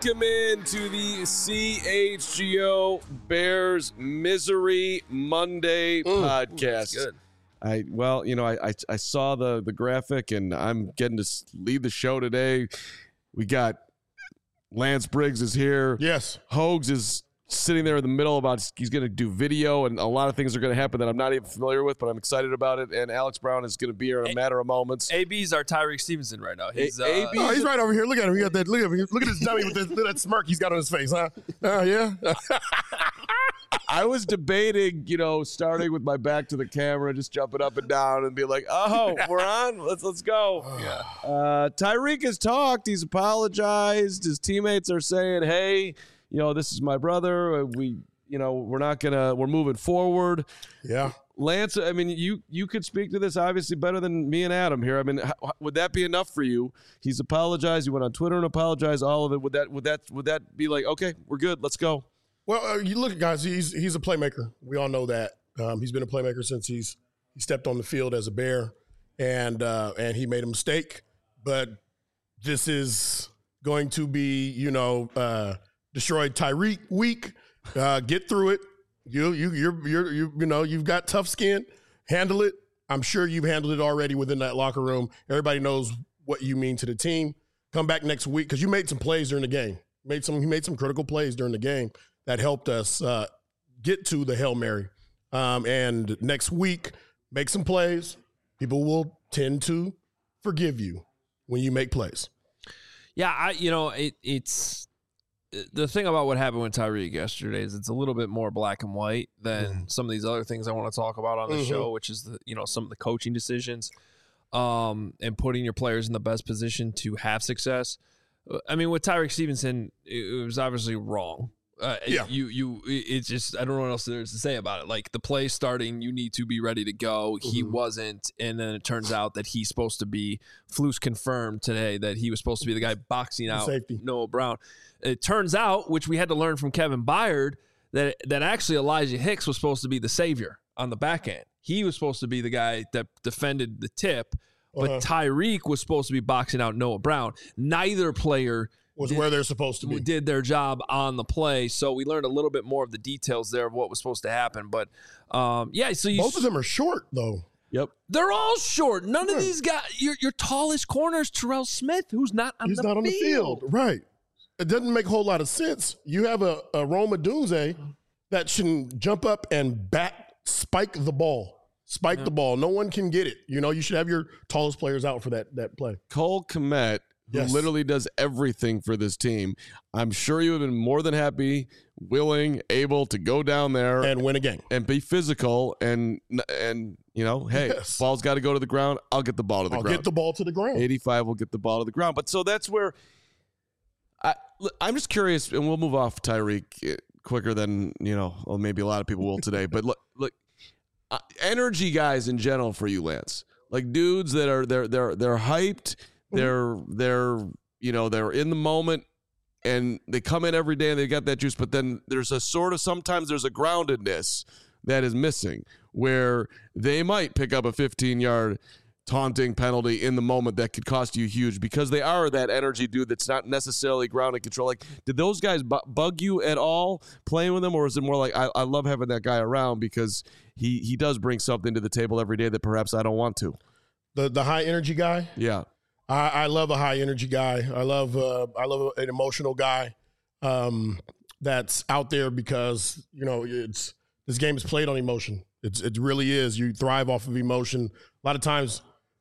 Welcome into the CHGO Bears Misery Monday podcast. Good. I saw the graphic, and I'm getting to lead the show today. We got Lance Briggs is here. Yes. Hogs is sitting there in the middle he's going to do video, and a lot of things are going to happen that I'm not even familiar with, but I'm excited about it. And Alex Brown is going to be here in a matter of moments. AB's our Tyreek Stevenson right now. He's Oh, he's right over here. Look at him. He got that. Look at him. Look at his dummy with that smirk he's got on his face, huh? Yeah. I was debating, starting with my back to the camera, just jumping up and down and be like, "Oh, we're on. Let's go." yeah. Tyreek has talked. He's apologized. His teammates are saying, "Hey, this is my brother. We're moving forward." Yeah. Lance, I mean, you could speak to this obviously better than me and Adam here. I mean, would that be enough for you? He's apologized. You went on Twitter and apologized. All of it. Would that be like, okay, we're good. Let's go? Well, you look, guys. He's a playmaker. We all know that. He's been a playmaker since he stepped on the field as a Bear, and he made a mistake. But this is going to be, destroyed Tyreek week. Get through it. You've got tough skin. Handle it. I'm sure you've handled it already within that locker room. Everybody knows what you mean to the team. Come back next week because you made some plays during the game. He made some critical plays during the game that helped us get to the Hail Mary. And next week, make some plays. People will tend to forgive you when you make plays. Yeah, it's the thing about what happened with Tyreek yesterday is it's a little bit more black and white than some of these other things I want to talk about on the show, which is some of the coaching decisions and putting your players in the best position to have success. I mean, with Tyreek Stevenson, it was obviously wrong. It's just, I don't know what else there is to say about it. Like, the play starting, you need to be ready to go. He wasn't, and then it turns out that he's supposed to be, Flus confirmed today that he was supposed to be the guy boxing out safety. Noah Brown. It turns out, which we had to learn from Kevin Byard, that actually Elijah Hicks was supposed to be the savior on the back end. He was supposed to be the guy that defended the tip, but Tyreek was supposed to be boxing out Noah Brown. Neither player where they're supposed to be. Did their job on the play. So we learned a little bit more of the details there of what was supposed to happen. But, so both of them are short, though. Yep. They're all short. None of these guys. Your tallest corner is Terrell Smith, who's not on the field. Right. It doesn't make a whole lot of sense. You have a Rome Odunze that should jump up and spike the ball. The ball. No one can get it. You should have your tallest players out for that play. Cole Kmet, who literally does everything for this team. I'm sure you would have been more than happy, willing, able to go down there and win a game and be physical and hey, ball's got to go to the ground. I'll get the ball to the ground. I'll get the ball to the ground. 85 will get the ball to the ground. But so that's where I'm just curious, and we'll move off Tyreek quicker than maybe a lot of people will today. But look, energy guys in general for you, Lance, like dudes that are they're hyped. They're in the moment, and they come in every day and they got that juice. But then there's sometimes there's a groundedness that is missing where they might pick up a 15-yard taunting penalty in the moment that could cost you huge because they are that energy dude that's not necessarily ground and control. Like, did those guys bug you at all playing with them, or is it more like I love having that guy around because he does bring something to the table every day that perhaps I don't want to? The high energy guy? Yeah. I love a high energy guy. I love an emotional guy that's out there because this game is played on emotion. It really is. You thrive off of emotion. A lot of times,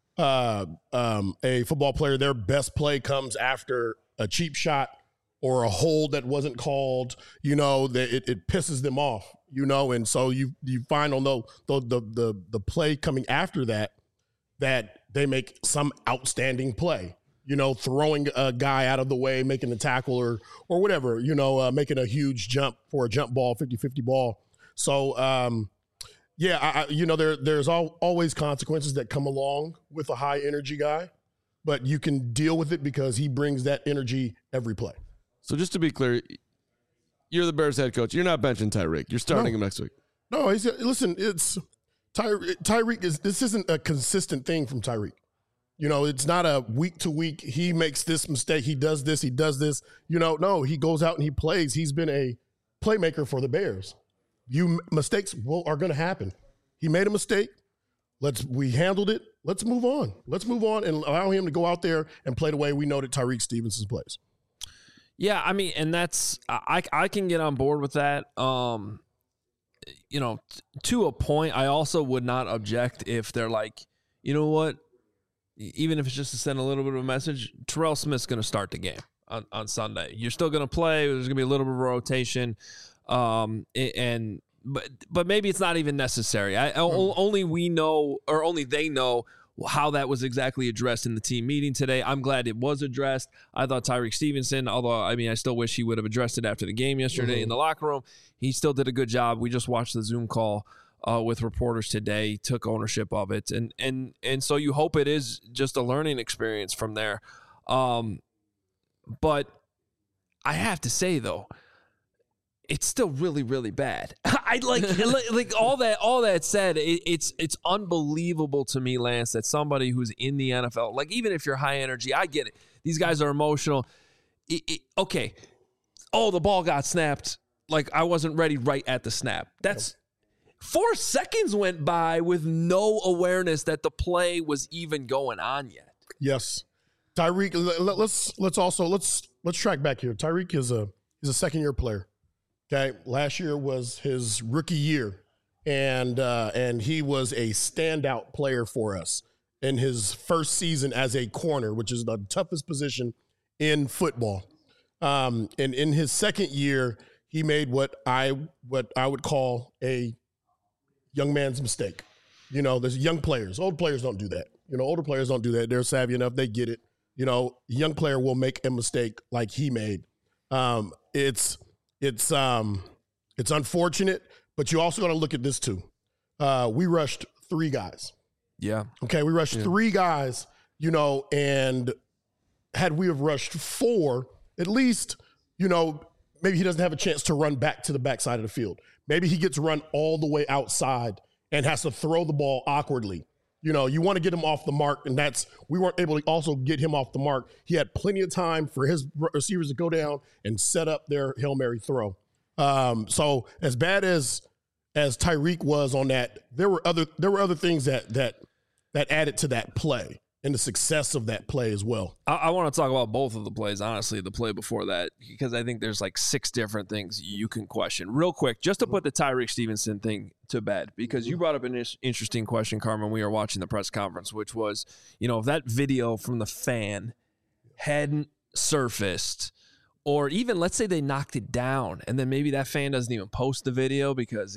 a football player, their best play comes after a cheap shot or a hold that wasn't called. That it pisses them off. And so you find on the play coming after that they make some outstanding play, throwing a guy out of the way, making the tackle or whatever, making a huge jump for a jump ball, 50-50 ball. So, there's always consequences that come along with a high energy guy, but you can deal with it because he brings that energy every play. So just to be clear, you're the Bears head coach. You're not benching Tyreek. You're starting him next week. No, listen, it's Tyreek this isn't a consistent thing from Tyreek. You know, it's not a week to week. He makes this mistake. He does this. He does this. You know, no, he goes out and he plays. He's been a playmaker for the Bears. Mistakes are going to happen. He made a mistake. We handled it. Let's move on. Let's move on and allow him to go out there and play the way we know that Tyrique Stevenson plays. Yeah, I mean, and that's I can get on board with that. You know, to a point, I also would not object if they're like, you know what, even if it's just to send a little bit of a message, Terrell Smith's going to start the game on Sunday. You're still going to play. There's going to be a little bit of a rotation, but maybe it's not even necessary. Only we know, or only they know, how that was exactly addressed in the team meeting today. I'm glad it was addressed. I thought Tyrique Stevenson, although, I mean, I still wish he would have addressed it after the game yesterday in the locker room. He still did a good job. We just watched the Zoom call with reporters today, took ownership of it. And so you hope it is just a learning experience from there. But I have to say, though, it's still really, really bad. I like all that said. It's unbelievable to me, Lance, that somebody who's in the NFL, like, even if you're high energy, I get it. These guys are emotional. Okay. Oh, the ball got snapped. Like, I wasn't ready right at the snap. That's 4 seconds went by with no awareness that the play was even going on yet. Yes, Tyrique. Let's track back here. Tyrique is a second-year player. Okay, last year was his rookie year, and he was a standout player for us in his first season as a corner, which is the toughest position in football. And in his second year, he made what I would call a young man's mistake. You know, there's young players. Old players don't do that. You know, older players don't do that. They're savvy enough. They get it. You know, a young player will make a mistake like he made. It's unfortunate, but you also got to look at this too. We rushed 3 guys. Yeah. Okay, we rushed 3 guys, you know, and had we have rushed 4, at least, you know, maybe he doesn't have a chance to run back to the backside of the field. Maybe he gets run all the way outside and has to throw the ball awkwardly. You know, you want to get him off the mark, and we weren't able to also get him off the mark. He had plenty of time for his receivers to go down and set up their Hail Mary throw. So as bad as Tyrique was on that, there were other things that added to that play and the success of that play as well. I want to talk about both of the plays, honestly, the play before that, because I think there's like 6 different things you can question. Real quick, just to put the Tyrique Stevenson thing to bed, because you brought up an interesting question, Carmen, we were watching the press conference, which was, you know, if that video from the fan hadn't surfaced, or even let's say they knocked it down and then maybe that fan doesn't even post the video because,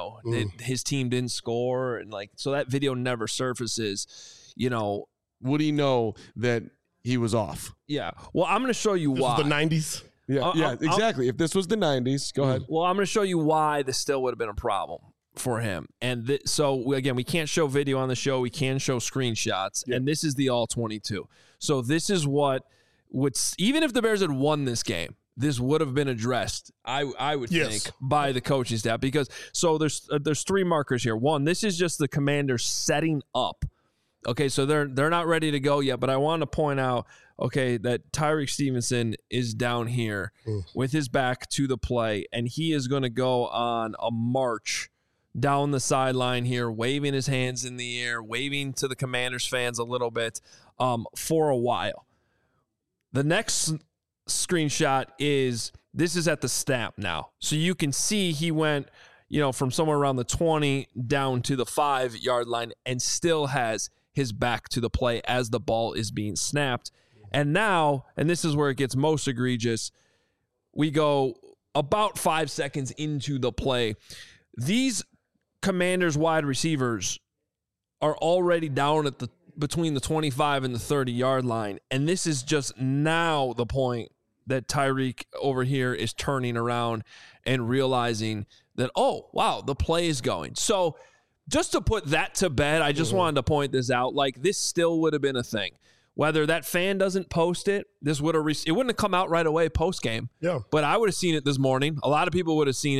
his team didn't score, and like, so that video never surfaces, you know. Would he know that he was off? Yeah. Well, I'm going to show you why. This was the 90s? Yeah, exactly. If this was the 90s, go ahead. Well, I'm going to show you why this still would have been a problem for him. And so, again, we can't show video on the show. We can show screenshots. Yeah. And this is the all-22. So this is what would – even if the Bears had won this game, this would have been addressed, I would think, by the coaching staff. Because so there's 3 markers here. One, this is just the Commanders setting up. Okay, so they're not ready to go yet, but I want to point out, okay, that Tyrique Stevenson is down here with his back to the play, and he is going to go on a march down the sideline here, waving his hands in the air, waving to the Commanders fans a little bit for a while. The next screenshot is at the snap now. So you can see he went, you know, from somewhere around the 20 down to the 5-yard line and still has his back to the play as the ball is being snapped. And now, and this is where it gets most egregious, we go about 5 seconds into the play. These Commanders wide receivers are already down at between the 25 and the 30-yard line. And this is just now the point that Tyrique over here is turning around and realizing that, oh, wow, the play is going. So just to put that to bed, I just wanted to point this out. Like, this still would have been a thing. Whether that fan doesn't post it, this would have it wouldn't have come out right away post game. Yeah. But I would have seen it this morning. A lot of people would have seen it,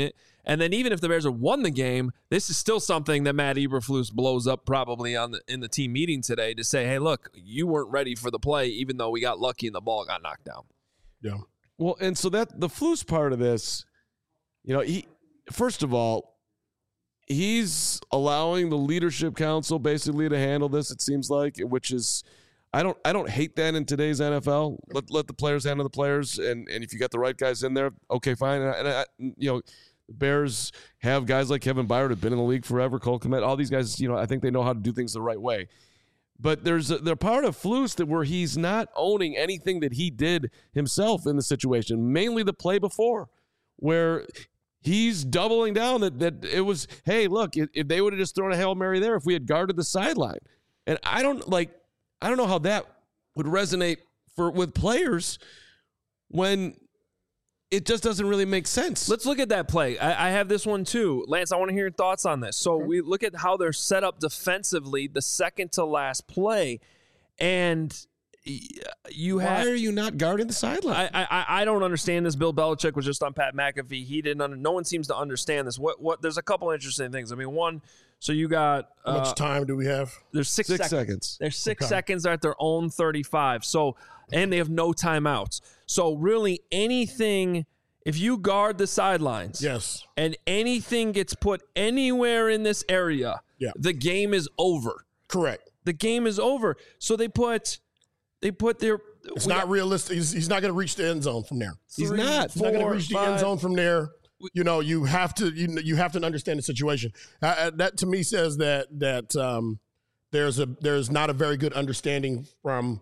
And then even if the Bears have won the game, this is still something that Matt Eberflus blows up probably in the team meeting today to say, hey, look, you weren't ready for the play, even though we got lucky and the ball got knocked down. Yeah. Well, and so that the Flus part of this, first of all, he's allowing the leadership council basically to handle this, it seems like, which is, I don't hate that in today's NFL. Let the players handle the players, and if you got the right guys in there, okay, fine. And the Bears have guys like Kevin Byard who've been in the league forever, Cole Kmet, all these guys. I think they know how to do things the right way. But they're part of Flus that where he's not owning anything that he did himself in the situation, mainly the play before, where he's doubling down that it was, hey, look, if they would have just thrown a Hail Mary there, if we had guarded the sideline, and I don't know how that would resonate with players when it just doesn't really make sense. Let's look at that play. I have this one too. Lance, I want to hear your thoughts on this. So we look at how they're set up defensively, the second to last play, and why are you not guarding the sideline? I don't understand this. Bill Belichick was just on Pat McAfee. He didn't. No one seems to understand this. What? There's a couple interesting things. I mean, one. So you got how much time do we have? There's six seconds. There's 6 seconds at their own 35. So, and they have no timeouts. So really anything, if you guard the sidelines, yes, and anything gets put anywhere in this area, the game is over. Correct. The game is over. So they put their. It's not realistic. He's not going to reach the end zone from there. He's not going to reach the end zone from there. You have to understand the situation. That to me says that there's not a very good understanding from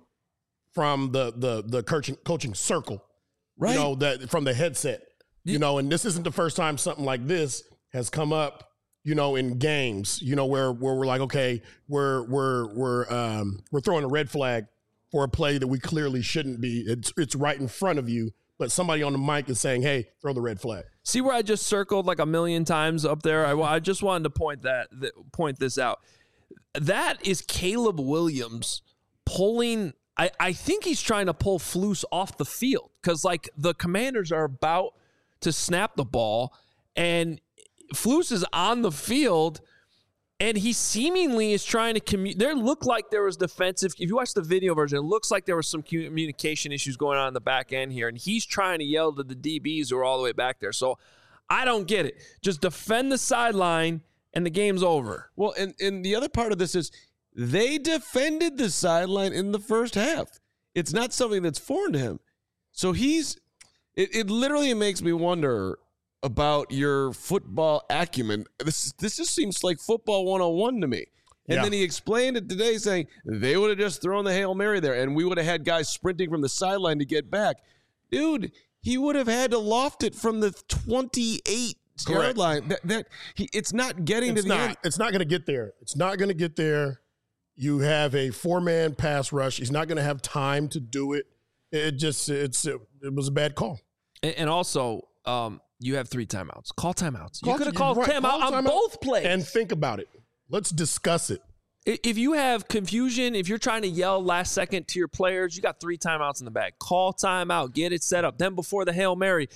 the coaching circle, right? That from the headset, and this isn't the first time something like this has come up, in games, where we're like, okay, we're throwing a red flag for a play that we clearly shouldn't be. It's right in front of you. But somebody on the mic is saying, hey, throw the red flag. See where I just circled like a million times up there? I just wanted to point this out. That is Caleb Williams pulling – I think he's trying to pull Flus off the field because, like, the Commanders are about to snap the ball, and Flus is on the field – and he seemingly is trying to There looked like there was defensive. If you watch the video version, it looks like there was some communication issues going on in the back end here. And he's trying to yell to the DBs who are all the way back there. So I don't get it. Just defend the sideline and the game's over. Well, and the other part of this is they defended the sideline in the first half. It's not something that's foreign to him. So it literally makes me wonder about your football acumen. This just seems like football 101 to me. And then he explained it today saying they would have just thrown the Hail Mary there and we would have had guys sprinting from the sideline to get back. Dude, he would have had to loft it from the 28-yard line. It's not getting to the end. It's not going to get there. It's not going to get there. You have a 4-man pass rush. He's not going to have time to do it. It was a bad call. And also, you have 3 timeouts. Call timeouts. You could have called timeout on both plays. And think about it. Let's discuss it. If you have confusion, if you're trying to yell last second to your players, you got 3 timeouts in the bag. Call timeout. Get it set up. Then before the Hail Mary.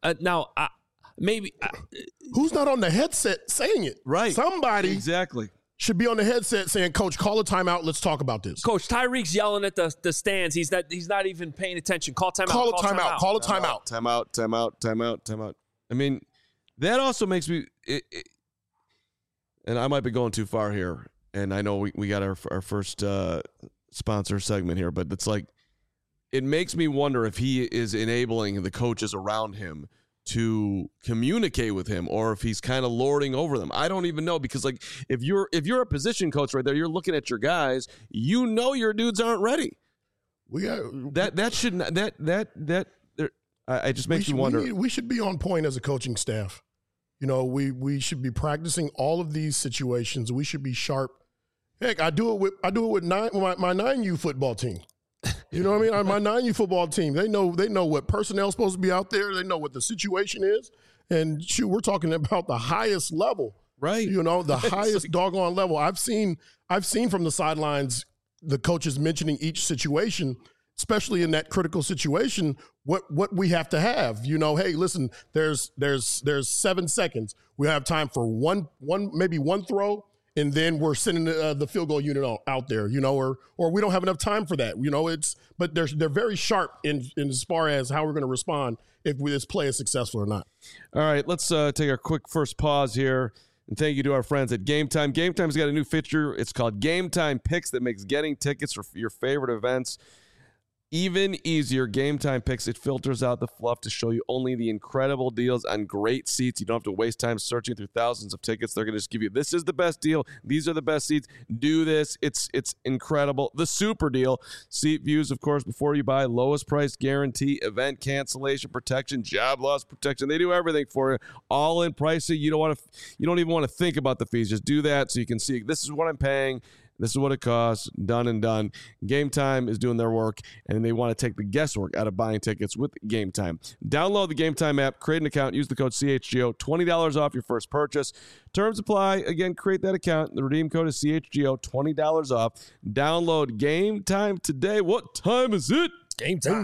Who's not on the headset saying it? Right. Somebody should be on the headset saying, Coach, call a timeout. Let's talk about this. Coach, Tyreek's yelling at the stands. He's not even paying attention. Call timeout. Call a timeout. Call a timeout. Timeout. I mean, that also makes me and I might be going too far here, and I know we got our first sponsor segment here, but it's like it makes me wonder if he is enabling the coaches around him to communicate with him or if he's kind of lording over them. I don't even know, because like if you're a position coach right there, you're looking at your guys, your dudes aren't ready. It just makes me wonder. We should be on point as a coaching staff. We should be practicing all of these situations. We should be sharp. Heck, I do it with my 9U football team. You know what I mean? My 9U football team, they know what personnel's supposed to be out there. They know what the situation is. And shoot, we're talking about the highest level. Right. The highest doggone level. I've seen from the sidelines the coaches mentioning each situation, especially in that critical situation, what we have to have. Hey, listen, there's 7 seconds. We have time for maybe one throw, and then we're sending the field goal unit out there, or we don't have enough time for that. But they're very sharp in as far as how we're going to respond if this play is successful or not. All right, let's take a quick first pause here. And thank you to our friends at Game Time. Game Time's got a new feature. It's called Game Time Picks that makes getting tickets for your favorite events even easier. Game Time Picks, it filters out the fluff to show you only the incredible deals on great seats. You don't have to waste time searching through thousands of tickets. They're going to just give you, this is the best deal. These are the best seats. Do this. It's incredible. The super deal. Seat views, of course, before you buy. Lowest price guarantee. Event cancellation protection. Job loss protection. They do everything for you. All in pricing. You don't even want to think about the fees. Just do that so you can see, this is what I'm paying. This is what it costs, done and done. Game Time is doing their work, and they want to take the guesswork out of buying tickets with Game Time. Download the Game Time app, create an account, use the code CHGO, $20 off your first purchase. Terms apply. Again, create that account. The redeem code is CHGO, $20 off. Download Game Time today. What time is it? Game time.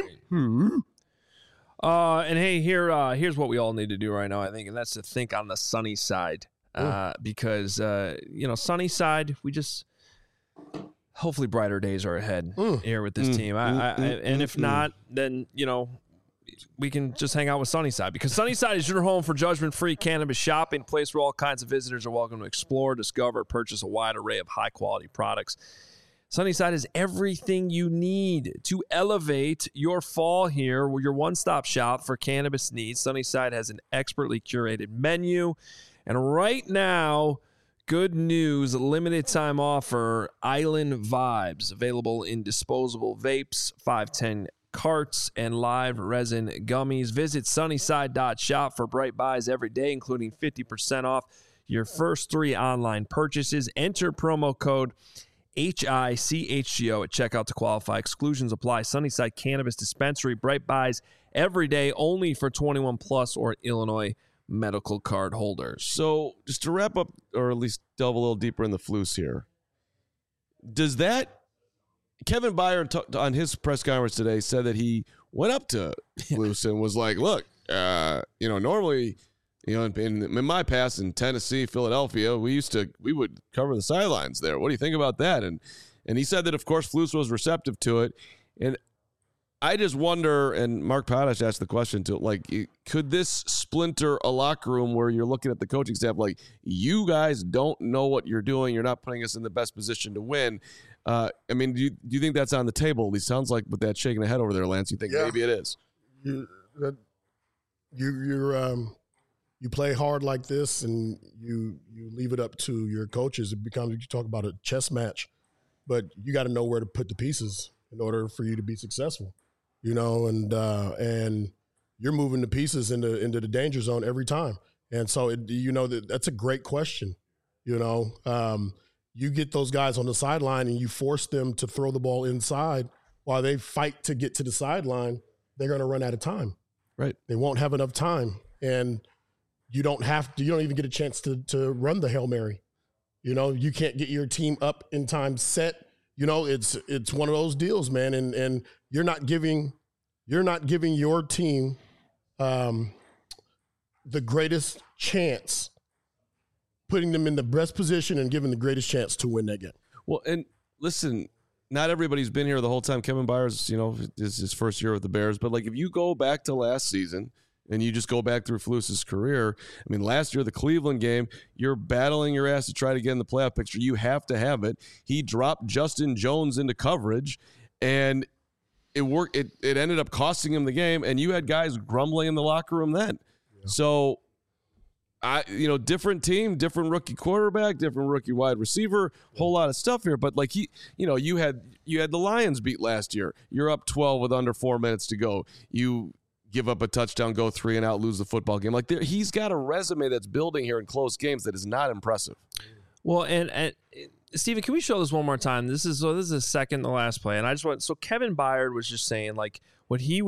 And hey, here's what we all need to do right now, I think, and that's to think on the sunny side. Because sunny side, we just hopefully brighter days are ahead here with this team. And if not, then we can just hang out with Sunnyside, because Sunnyside is your home for judgment-free cannabis shopping, place where all kinds of visitors are welcome to explore, discover, purchase a wide array of high-quality products. Sunnyside is everything you need to elevate your fall here. Your one-stop shop for cannabis needs. Sunnyside has an expertly curated menu. And right now, good news, limited time offer, Island Vibes, available in disposable vapes, 510 carts, and live resin gummies. Visit sunnyside.shop for bright buys every day, including 50% off your first 3 online purchases. Enter promo code HICHGO at checkout to qualify. Exclusions apply. Sunnyside Cannabis Dispensary, bright buys every day, only for 21 plus or Illinois medical card holders. So just to wrap up, or at least delve a little deeper in the Flus here, does that Kevin Byard on his press conference today said that he went up to Flus and was like, look, normally, in my past in Tennessee, Philadelphia, we would cover the sidelines there. What do you think about that? And he said that, of course, Flus was receptive to it. And I just wonder, and Mark Potash asked the question too, could this splinter a locker room where you're looking at the coaching staff like, you guys don't know what you're doing, you're not putting us in the best position to win? Do you think that's on the table? At least sounds like with that shaking the head over there, Lance, you think maybe it is? You play hard like this, and you leave it up to your coaches. It becomes, you talk about a chess match, but you got to know where to put the pieces in order for you to be successful. And you're moving the pieces into the danger zone every time. And so, that's a great question. You get those guys on the sideline and you force them to throw the ball inside while they fight to get to the sideline. They're going to run out of time. Right. They won't have enough time. And you don't even get a chance to run the Hail Mary. You can't get your team up in time set. It's one of those deals, man, and you're not giving your team the greatest chance, putting them in the best position and giving the greatest chance to win that game. Well, and listen, not everybody's been here the whole time. Kevin Byard's, is his first year with the Bears, but if you go back to last season and you just go back through Flus's career, last year, the Cleveland game, you're battling your ass to try to get in the playoff picture. You have to have it. He dropped Justin Jones into coverage, and it worked. It ended up costing him the game, and you had guys grumbling in the locker room then. Yeah. So, different team, different rookie quarterback, different rookie wide receiver, whole lot of stuff here. But you had the Lions beat last year. You're up 12 with under 4 minutes to go. You give up a touchdown, go 3 and out, lose the football game. He's got a resume that's building here in close games that is not impressive. Well, and Steven, can we show this one more time? This is the second to last play, and I just want. So Kevin Byard was just saying what he would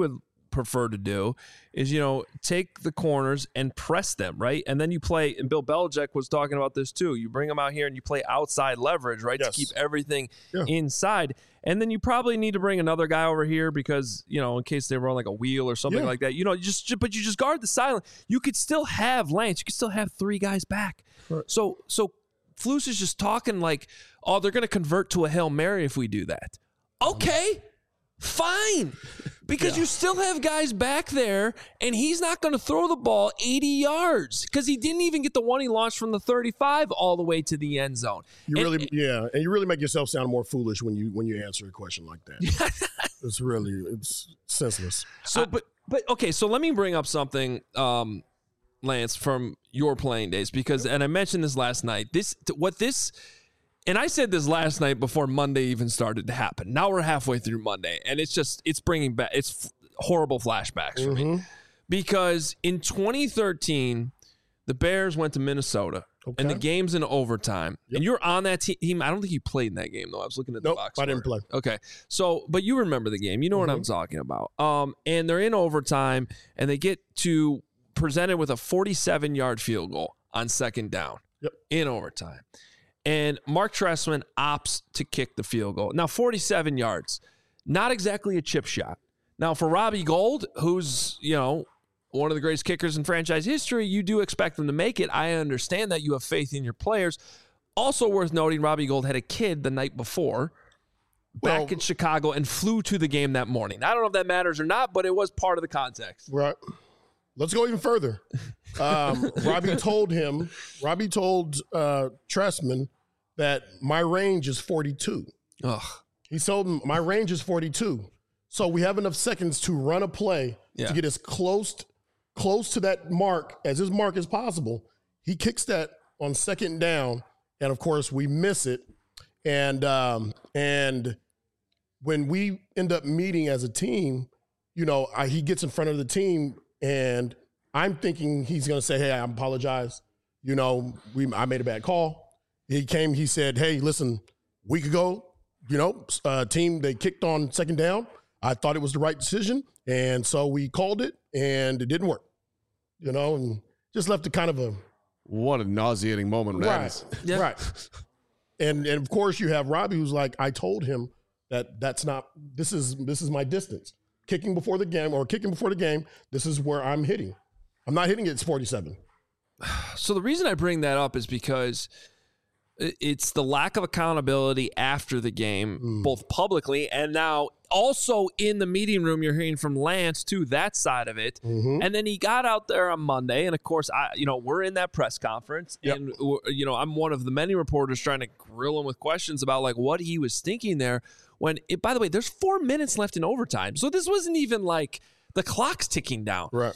prefer to do is, take the corners and press them, right? And then you play, and Bill Belichick was talking about this too. You bring them out here and you play outside leverage, right? Yes. To keep everything inside. And then you probably need to bring another guy over here because, in case they run like a wheel or something like that, but you just guard the silent. You could still have Lance. You could still have 3 guys back. Right. So Flus is just talking like, oh, they're going to convert to a Hail Mary if we do that. Okay, fine. Because you still have guys back there, and he's not going to throw the ball 80 yards because he didn't even get the one he launched from the 35 all the way to the end zone. And you really make yourself sound more foolish when you answer a question like that. it's senseless. So, but okay. So let me bring up something, Lance, from your playing days and I mentioned this last night. And I said this last night before Monday even started to happen. Now we're halfway through Monday, and it's bringing back horrible flashbacks for me. Because in 2013, the Bears went to Minnesota, and the game's in overtime. Yep. And you're on that team. I don't think you played in that game, though. I was looking at the box. I didn't play. Okay. So, but you remember the game. You know what I'm talking about. And they're in overtime, and they get presented with a 47-yard field goal on second down in overtime. And Mark Trestman opts to kick the field goal. Now, 47 yards, not exactly a chip shot. Now, for Robbie Gould, who's, one of the greatest kickers in franchise history, you do expect them to make it. I understand that. You have faith in your players. Also worth noting, Robbie Gould had a kid the night before back in Chicago and flew to the game that morning. I don't know if that matters or not, but it was part of the context. Right. Let's go even further. Robbie told Trestman that my range is 42. Ugh. He told him my range is 42. So we have enough seconds to run a play to get as close to that mark as possible. He kicks that on second down, and of course we miss it. And when we end up meeting as a team, he gets in front of the team. And I'm thinking he's going to say, hey, I apologize. I made a bad call. He said, hey, listen, a week ago, team, they kicked on second down. I thought it was the right decision. And so we called it and it didn't work, and just left it kind of a. What a nauseating moment. Right. Yeah. Right. And of course you have Robbie who's like, I told him this is my distance. Kicking before the game, this is where I'm hitting. I'm not hitting it, it's 47. So the reason I bring that up is because it's the lack of accountability after the game, both publicly and now also in the meeting room. You're hearing from Lance, too, that side of it. Mm-hmm. And then he got out there on Monday, and of course, we're in that press conference, and I'm one of the many reporters trying to grill him with questions about like what he was thinking there. By the way, there's 4 minutes left in overtime. So this wasn't even like the clock's ticking down. Right.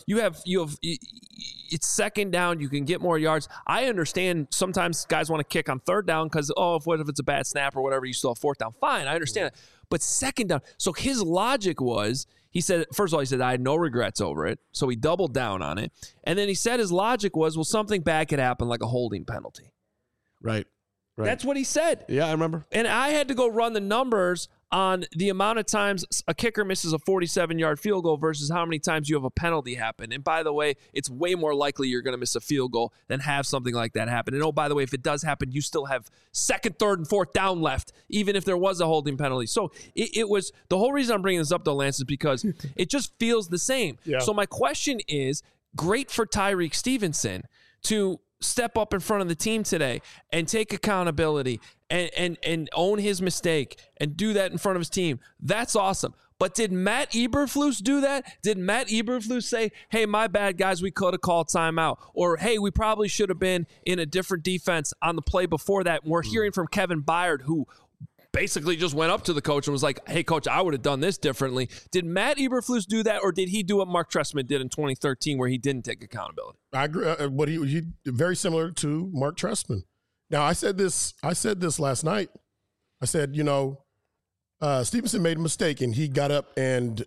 It's second down. You can get more yards. I understand sometimes guys want to kick on third down because, what if it's a bad snap or whatever, you still have fourth down. Fine. I understand it. But second down. So his logic was, first of all, he said, I had no regrets over it. So he doubled down on it. And then he said his logic was, something bad could happen like a holding penalty. Right. That's what he said. Yeah, I remember. And I had to go run the numbers on the amount of times a kicker misses a 47-yard field goal versus how many times you have a penalty happen. And by the way, it's way more likely you're going to miss a field goal than have something like that happen. And by the way, if it does happen, you still have second, third, and fourth down left, even if there was a holding penalty. So it was the whole reason I'm bringing this up, though, Lance, is because it just feels the same. Yeah. So my question is, great for Tyreek Stevenson to step up in front of the team today and take accountability and own his mistake and do that in front of his team. That's awesome. But did Matt Eberflus do that? Did Matt Eberflus say, hey, my bad, guys, we could have called timeout? Or, hey, we probably should have been in a different defense on the play before that? And we're hearing from Kevin Byard, who basically just went up to the coach and was like, hey, coach, I would have done this differently. Did Matt Eberflus do that, or did he do what Mark Trestman did in 2013 where he didn't take accountability? I agree. But he very similar to Mark Trestman. Now, I said this last night. I said, Stevenson made a mistake and he got up and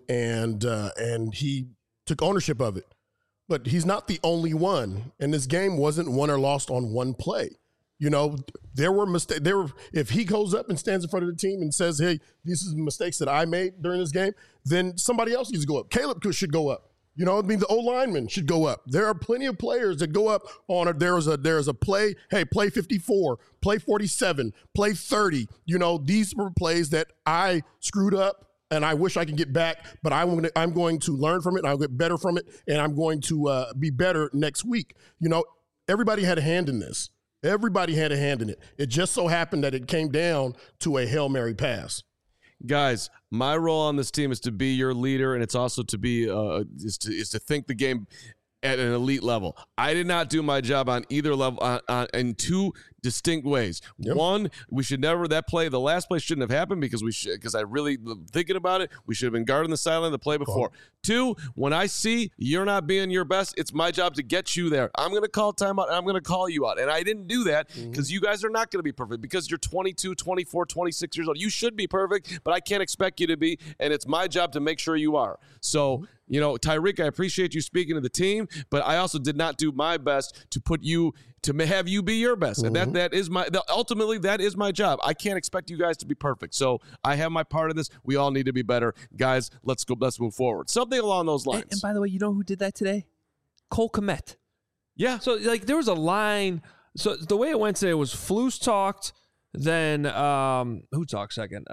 he took ownership of it. But he's not the only one. And this game wasn't won or lost on one play. You know, there were mistakes. If he goes up and stands in front of the team and says, "Hey, these are the mistakes that I made during this game," then somebody else needs to go up. Caleb should go up. You know, I mean, the O-lineman should go up. There are plenty of players that go up on it. There's a play. Hey, play 54, play 47, play 30. You know, these were plays that I screwed up. And I wish I could get back, but I'm going to learn from it, and I'll get better from it, and I'm going to be better next week. You know, everybody had a hand in this. Everybody had a hand in it. It just so happened that it came down to a Hail Mary pass. Guys, my role on this team is to be your leader, and it's also to be is to think the game at an elite level. I did not do my job on either level in two distinct ways. Yep. One, we should never, the last play shouldn't have happened because I really, thinking about it, we should have been guarding the sideline the play before. Two, when I see you're not being your best, it's my job to get you there. I'm going to call timeout, and I'm going to call you out. And I didn't do that because you guys are not going to be perfect because you're 22, 24, 26 years old. You should be perfect, but I can't expect you to be, and it's my job to make sure you are. So, you know, Tyreek, I appreciate you speaking to the team, but I also did not do my best to put you, to have you be your best. And that is ultimately, that is my job. I can't expect you guys to be perfect. So I have my part of this. We all need to be better. Guys, let's move forward. Something along those lines. And by the way, you know who did that today? Cole Kmet. Yeah. So, like, there was a line. So the way it went today was Flus talked, then who talked second?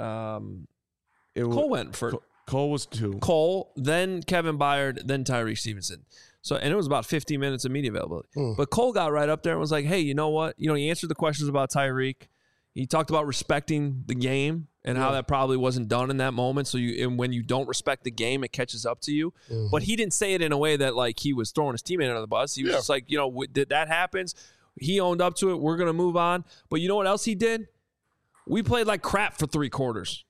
Cole went first. Cole was 2. Cole, then Kevin Byard, then Tyreek Stevenson. So, and it was about 15 minutes of media availability. But Cole got right up there and was like, hey, you know what? You know, he answered the questions about Tyreek. He talked about respecting the game and how that probably wasn't done in that moment. So and when you don't respect the game, it catches up to you. But he didn't say it in a way that, like, he was throwing his teammate under the bus. He was just like, you know, that happens. He owned up to it. We're going to move on. But you know what else he did? We played like crap for 3 quarters.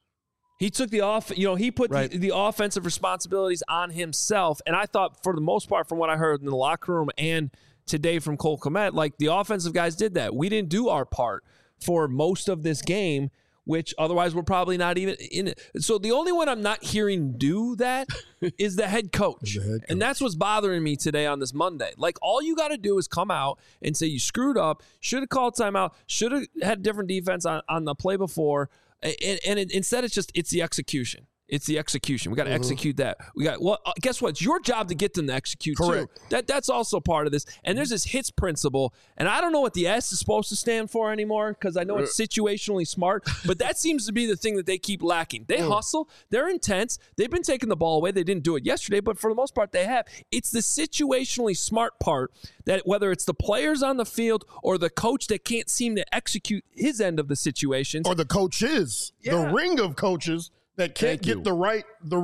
He took he put the offensive responsibilities on himself. And I thought, for the most part, from what I heard in the locker room and today from Cole Kmet, like, the offensive guys did that. We didn't do our part for most of this game, which otherwise we're probably not even in it. So the only one I'm not hearing do that is the head coach. And that's what's bothering me today on this Monday. Like, all you got to do is come out and say you screwed up, should have called timeout, should have had different defense on the play before. Instead, it's the execution. It's the execution. We got to execute that. Guess what? It's your job to get them to execute too. That's also part of this. And there's this HITS principle, and I don't know what the S is supposed to stand for anymore because I know it's situationally smart, but that seems to be the thing that they keep lacking. They hustle. They're intense. They've been taking the ball away. They didn't do it yesterday, but for the most part, they have. It's the situationally smart part that, whether it's the players on the field or the coach that can't seem to execute his end of the situations, or the coaches, the ring of coaches that can't get the right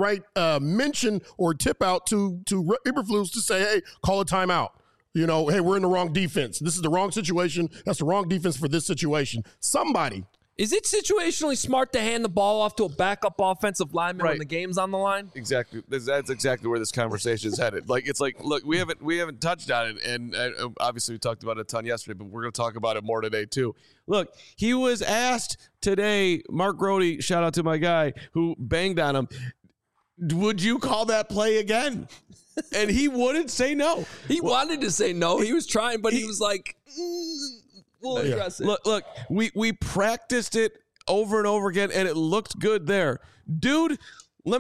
mention or tip out to Eberflus to say, hey, call a timeout. You know, hey, we're in the wrong defense. This is the wrong situation. That's the wrong defense for this situation. Somebody. Is it situationally smart to hand the ball off to a backup offensive lineman when the game's on the line? Exactly. That's exactly where this conversation is headed. Like, it's like, look, we haven't touched on it, and obviously we talked about it a ton yesterday, but we're going to talk about it more today too. Look, he was asked today, Mark Grody, shout out to my guy who banged on him, would you call that play again? And he wouldn't say no. He wanted to say no. He was trying, but he was like, we'll address it. Look, we practiced it over and over again, and it looked good there. Dude, let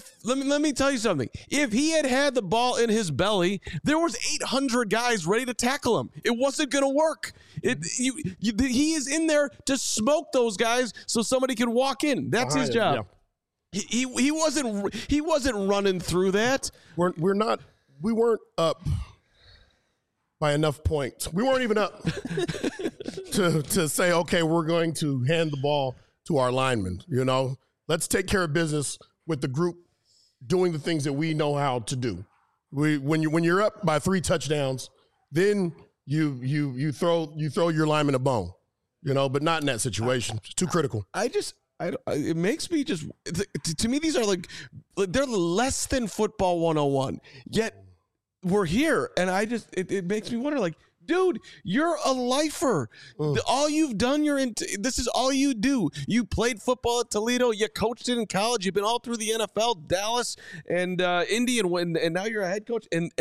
me tell you something. If he had the ball in his belly, there was 800 guys ready to tackle him. It wasn't going to work. He is in there to smoke those guys so somebody can walk in. That's his job. Yeah. He wasn't running through that. We weren't up by enough points. We weren't even up to say, okay, we're going to hand the ball to our linemen. You know, let's take care of business with the group doing the things that we know how to do. When you're up by 3 touchdowns, then you throw your lineman a bone. You know, but not in that situation. It's too critical. It makes me just, to me, these are like, they're less than football 101. Yet we're here, and it makes me wonder, like, dude, you're a lifer. All you've done, this is all you do. You played football at Toledo. You coached it in college. You've been all through the NFL, Dallas, and Indy, and now you're a head coach. And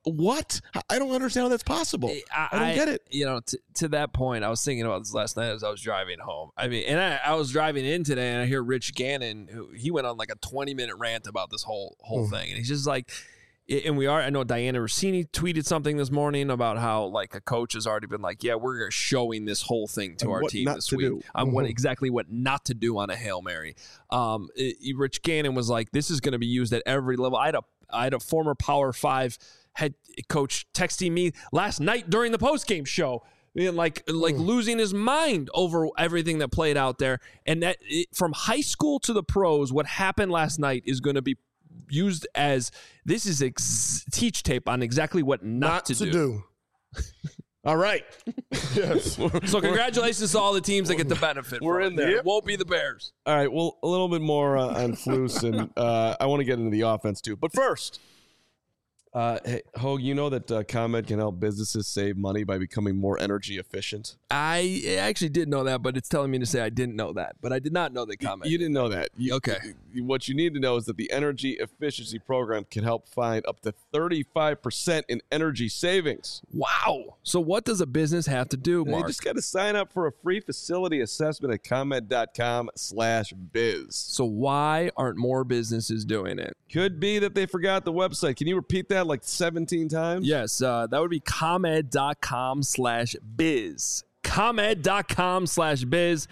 what? I don't understand how that's possible. I don't get it. You know, to that point, I was thinking about this last night as I was driving home. I mean, and I was driving in today, and I hear Rich Gannon, he went on like a 20-minute rant about this whole thing, and he's just like, and I know Diana Rossini tweeted something this morning about how like a coach has already been like, yeah, we're showing this whole thing to our team this week on what not to do on a Hail Mary. Rich Gannon was like, this is going to be used at every level. I had a former Power 5 head coach texting me last night during the postgame show, like losing his mind over everything that played out there. And that from high school to the pros, what happened last night is going to be used as this is teach tape on exactly what not to do. All right. Yes. So congratulations to all the teams that get the benefit. We're in there. It won't be the Bears. All right. Well, a little bit more on Flus, and I want to get into the offense too. But first, hey, Hogue, you know that ComEd can help businesses save money by becoming more energy efficient? I actually did know that, but it's telling me to say I didn't know that. But I did not know that ComEd. You didn't know that. Okay. What you need to know is that the Energy Efficiency Program can help find up to 35% in energy savings. Wow. So what does a business have to do, Mark? You just got to sign up for a free facility assessment at ComEd.com/biz. So why aren't more businesses doing it? Could be that they forgot the website. Can you repeat that like 17 times? Yes, that would be ComEd.com/biz. ComEd.com/biz.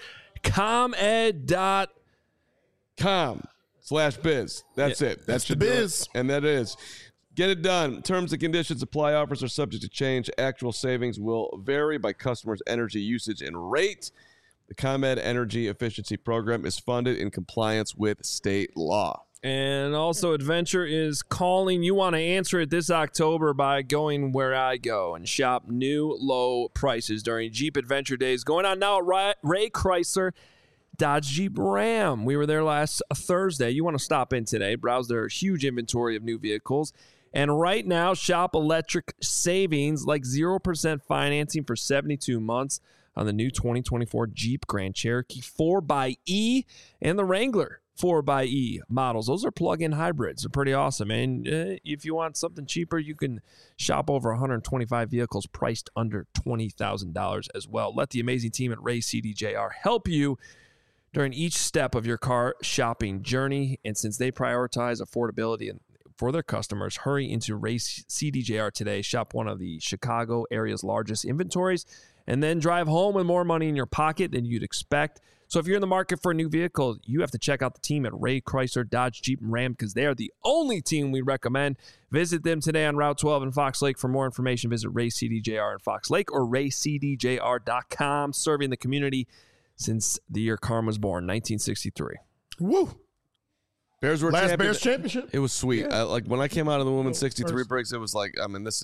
ComEd.com/biz. That's it. That's the biz. And that is. Get it done. Terms and conditions apply. Offers are subject to change. Actual savings will vary by customers' energy usage and rate. The ComEd Energy Efficiency Program is funded in compliance with state law. And also, Adventure is calling. You want to answer it this October by going where I go and shop new low prices during Jeep Adventure Days going on now at Ray Chrysler Dodge Jeep Ram. We were there last Thursday. You want to stop in today, browse their huge inventory of new vehicles. And right now, shop electric savings like 0% financing for 72 months on the new 2024 Jeep Grand Cherokee 4xE and the Wrangler 4xE models. Those are plug-in hybrids. They're pretty awesome. And if you want something cheaper, you can shop over 125 vehicles priced under $20,000 as well. Let the amazing team at Ray CDJR help you during each step of your car shopping journey. And since they prioritize affordability and for their customers, hurry into Ray CDJR today. Shop one of the Chicago area's largest inventories and then drive home with more money in your pocket than you'd expect. So if you're in the market for a new vehicle, you have to check out the team at Ray Chrysler Dodge Jeep Ram because they are the only team we recommend. Visit them today on Route 12 in Fox Lake. For more information, visit Ray CDJR in Fox Lake or raycdjr.com, serving the community since the year Carm was born, 1963. Woo! Bears were last Bears championship. It was sweet. Yeah. Like when I came out of the women's 63 breaks, it was like, I mean, this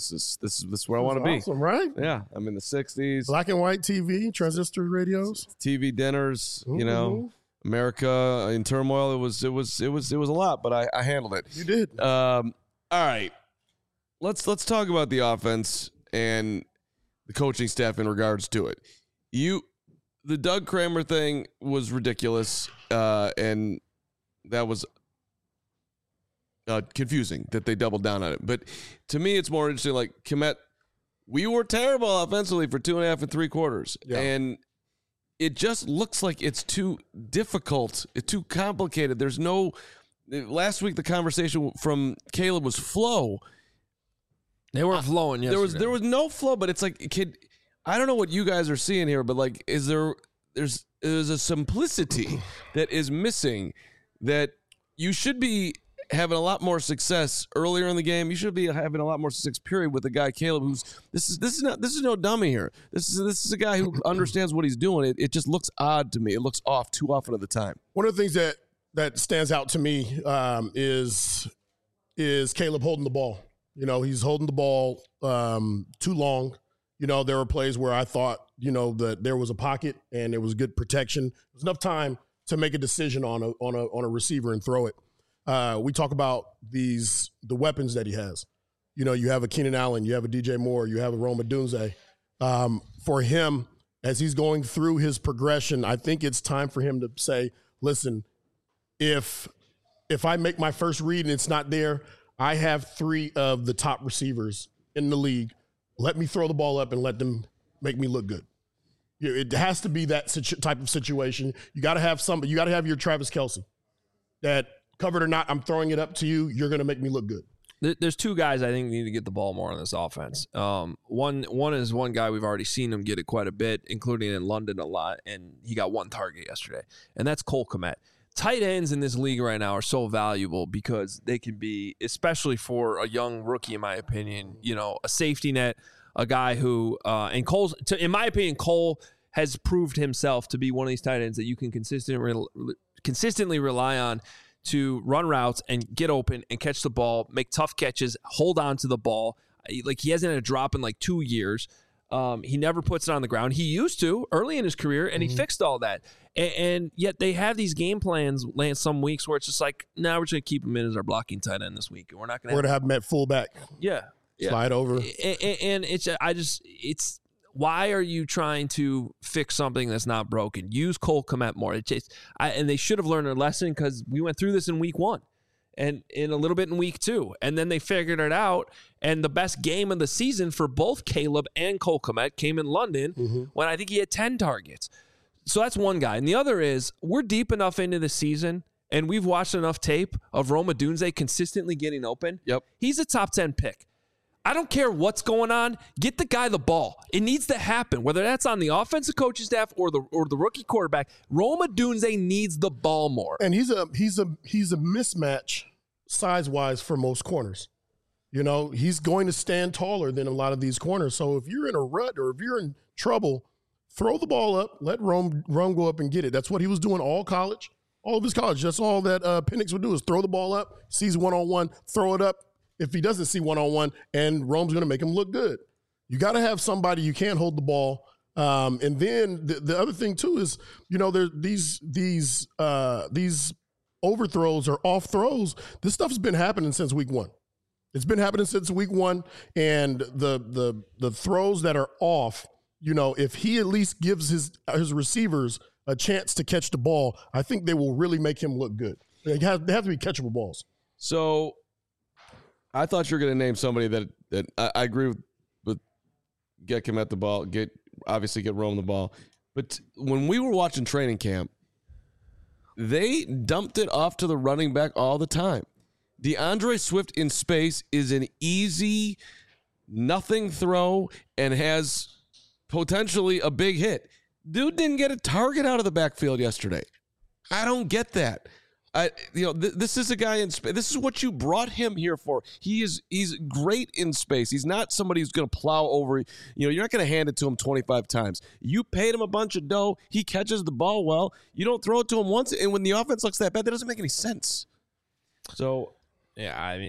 is where I want to be. Awesome, right? Yeah, I'm in the 60s. Black and white TV, transistor radios, TV dinners. You know, America in turmoil. It was a lot, but I handled it. You did. All right, let's talk about the offense and the coaching staff in regards to it. The Doug Kramer thing was ridiculous, and that was confusing that they doubled down on it. But to me, it's more interesting, like, Kmet, we were terrible offensively for 2.5 and 3 quarters. Yeah. And it just looks like it's too difficult. It's too complicated. There's no – last week the conversation from Caleb was flow. They weren't flowing yesterday. There was no flow, but it's like, kid, I don't know what you guys are seeing here, but, like, there's a simplicity that is missing that you should be having a lot more success earlier in the game. You should be having a lot more success, period, with the guy Caleb, who's this is no dummy here. This is a guy who understands what he's doing. It just looks odd to me. It looks off too often at the time. One of the things that stands out to me is Caleb holding the ball. You know, he's holding the ball too long. You know, there were plays where I thought, you know, that there was a pocket and there was good protection. There was enough time to make a decision on a receiver and throw it. We talk about the weapons that he has. You know, you have a Keenan Allen, you have a DJ Moore, you have a Rome Odunze. For him, as he's going through his progression, I think it's time for him to say, listen, if I make my first read and it's not there, I have 3 of the top receivers in the league. Let me throw the ball up and let them make me look good. It has to be that type of situation. You got to have somebody. You got to have your Travis Kelce that, covered or not, I'm throwing it up to you. You're going to make me look good. There's 2 guys I think need to get the ball more on this offense. One is one guy we've already seen him get it quite a bit, including in London a lot, and he got 1 target yesterday, and that's Cole Kmet. Tight ends in this league right now are so valuable because they can be, especially for a young rookie, in my opinion, a safety net, a guy who, and Cole's, in my opinion, Cole has proved himself to be one of these tight ends that you can consistently rely on to run routes and get open and catch the ball, make tough catches, hold on to the ball. Like, he hasn't had a drop in like 2 years. He never puts it on the ground. He used to early in his career, and he fixed all that. And yet they have these game plans some weeks where it's just like, nah, we're just going to keep him in as our blocking tight end this week. We're not going to have him at fullback. Yeah. Slide over. And it's why are you trying to fix something that's not broken? Use Cole Kmet more. And they should have learned their lesson, because we went through this in week 1 and in a little bit in week 2. And then they figured it out. And the best game of the season for both Caleb and Cole Kmet came in London when I think he had 10 targets. So that's one guy. And the other is, we're deep enough into the season, and we've watched enough tape of Rome Odunze consistently getting open. Yep. He's a top 10 pick. I don't care what's going on. Get the guy the ball. It needs to happen, whether that's on the offensive coaching staff or the rookie quarterback. Rome Odunze needs the ball more. And he's a mismatch size-wise for most corners. He's going to stand taller than a lot of these corners. So if you're in a rut or if you're in trouble, throw the ball up, let Rome go up and get it. That's what he was doing all college, all of his college. That's all that Penix would do, is throw the ball up, sees one-on-one, throw it up. If he doesn't see one-on-one, and Rome's going to make him look good. You got to have somebody. You can't hold the ball. And then the other thing too is, there these overthrows or off throws. This stuff's been happening since week 1. It's been happening since week 1, and the throws that are off. If he at least gives his receivers a chance to catch the ball, I think they will really make him look good. They have to be catchable balls. So I thought you were going to name somebody that I agree with. Get Kmet the ball, get Rome the ball. But when we were watching training camp, they dumped it off to the running back all the time. DeAndre Swift in space is an easy, nothing throw and has potentially a big hit. Dude didn't get a target out of the backfield yesterday. I don't get that. This is a guy in space. This is what you brought him here for. He's great in space. He's not somebody who's going to plow over. You're not going to hand it to him 25 times. You paid him a bunch of dough. He catches the ball well. You don't throw it to him once, and when the offense looks that bad, that doesn't make any sense. So, yeah,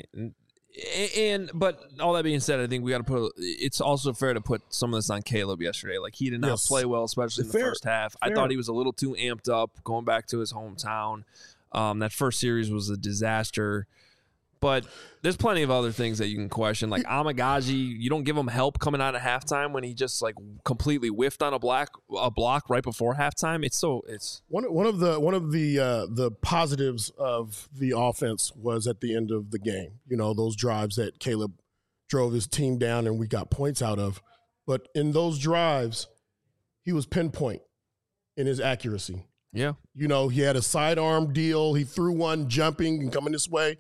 but all that being said, I think we got to it's also fair to put some of this on Caleb yesterday. Like, he did not play well, especially in the first half. I thought he was a little too amped up going back to his hometown. That first series was a disaster, but there's plenty of other things that you can question. Like Amagaji, you don't give him help coming out of halftime when he just like completely whiffed on a block right before halftime. It's one of the positives of the offense was at the end of the game. Those drives that Caleb drove his team down and we got points out of. But in those drives, he was pinpoint in his accuracy. Yeah. He had a sidearm deal. He threw one jumping and coming this way.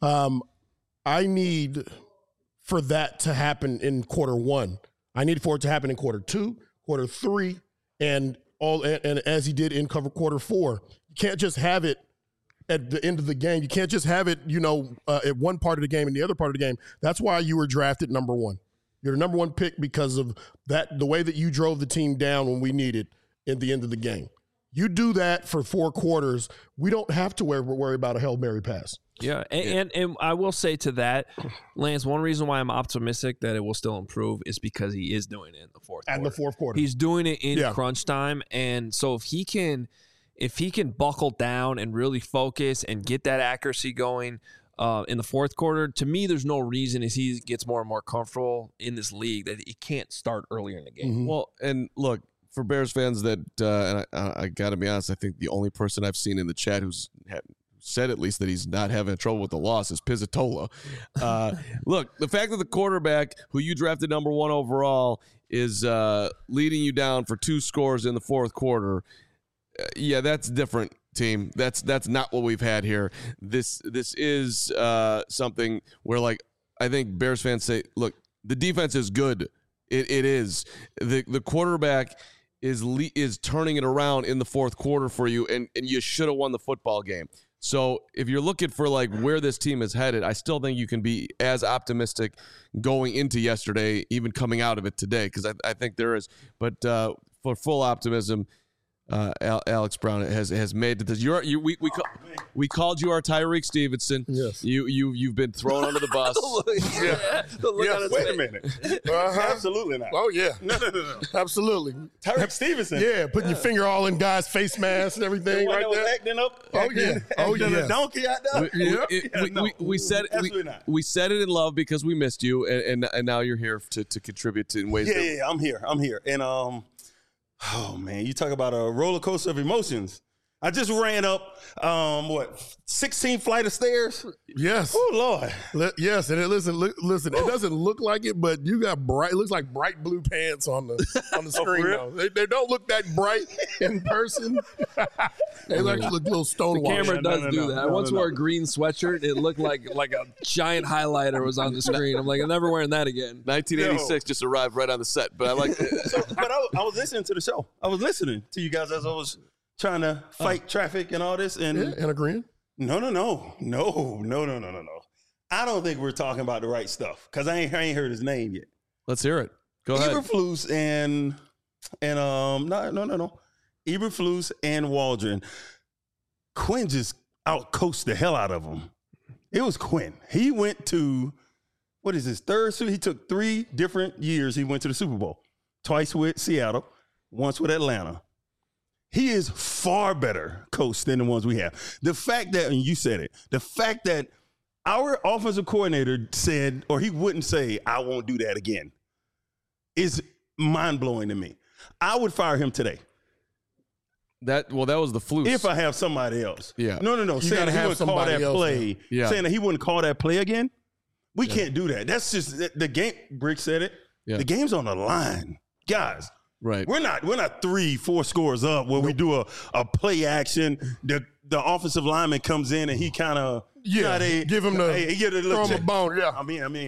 I need for that to happen in quarter 1. I need for it to happen in quarter 2, quarter 3, and as he did in quarter 4. You can't just have it at the end of the game. You can't just have it, at one part of the game and the other part of the game. That's why you were drafted number 1. You're the number 1 pick because of that, the way that you drove the team down when we needed at the end of the game. You do that for 4 quarters, we don't have to worry about a Hail Mary pass. Yeah, and I will say to that, Lance, one reason why I'm optimistic that it will still improve is because he is doing it in the fourth quarter. And the fourth quarter. He's doing it in crunch time, and so if he can buckle down and really focus and get that accuracy going in the fourth quarter, to me, there's no reason as he gets more and more comfortable in this league that he can't start earlier in the game. Mm-hmm. Well, and look, for Bears fans that, and I got to be honest, I think the only person I've seen in the chat who's said at least that he's not having trouble with the loss is Pizzatola. Look, the fact that the quarterback who you drafted number 1 overall is leading you down for 2 scores in the fourth quarter, yeah, that's different, team. That's not what we've had here. This is something where, like, I think Bears fans say, look, the defense is good. It is. The quarterback is turning it around in the fourth quarter for you, and you should have won the football game. So if you're looking for, like, where this team is headed, I still think you can be as optimistic going into yesterday, even coming out of it today, because I think there is. But for full optimism, Alex Brown has made this. We called you our Tyreek Stevenson. Yes. You've been thrown under the bus. Wait a minute. Absolutely not. Oh yeah. No. Absolutely. Tyreek Stevenson. Yeah, putting your finger all in guys' face masks and everything right there. Acting up. Oh yeah. Acting a donkey out there. We said absolutely not. We said it in love because we missed you, and now you're here to contribute in ways. Yeah, I'm here. And oh man, you talk about a roller coaster of emotions. I just ran up 16 flight of stairs. Yes. Oh Lord. Yes, and listen. It doesn't look like it, but you got bright. It looks like bright blue pants on the screen. real? Though. They don't look that bright in person. They actually look a little stonewashed. Camera does do that. I once no. wore a green sweatshut. It looked like a giant highlighter was on the screen. I'm like, I'm never wearing that again. 1986 just arrived right on the set, but I like it. But I was listening to the show. I was listening to you guys as I was trying to fight traffic and all this. And agreeing. No. I don't think we're talking about the right stuff because I ain't heard his name yet. Let's hear it. Go ahead. Eberflus and no. Eberflus and Waldron. Quinn just outcoached the hell out of him. It was Quinn. He went to, what is his third Super? He took 3 different years. He went to the Super Bowl. Twice with Seattle, once with Atlanta. He is far better coach than the ones we have. The fact that, and you said it, the fact that our offensive coordinator said, or he wouldn't say, I won't do that again, is mind-blowing to me. I would fire him today. That was the fluke. If I have somebody else. Yeah. No. Saying that he wouldn't call that play. Yeah. Saying that he wouldn't call that play again. We can't do that. That's just the game. Brick said it. Yeah. The game's on the line. Guys. Right. We're not 3-4 scores up where we do a play action. The offensive lineman comes in and he kind of give him throw him a bone. Yeah. I mean,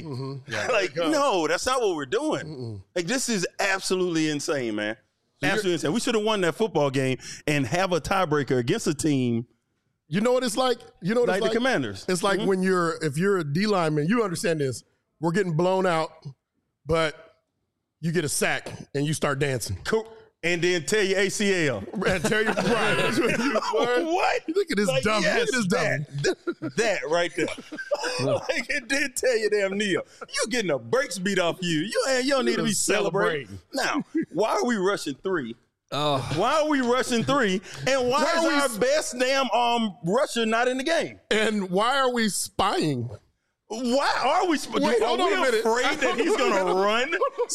no, that's not what we're doing. Like, this is absolutely insane, man. Absolutely insane. We should have won that football game and have a tiebreaker against a team. You know what it's like? You know what it's like? The Commanders. It's like when if you're a D lineman, you understand this. We're getting blown out, but you get a sack and you start dancing. Cool. And then tear your ACL. And tear your pride. What? Look at this dumb. Yes, look at this dumb. That right there. Like, it did tear your damn knee up. You getting the brakes beat off you. You don't need to be celebrating. Now, why are we rushing 3? Why are we rushing 3? And why is our best damn rusher not in the game? And why are we spying? Why are we? Wait, hold on a minute. Afraid that he's going to run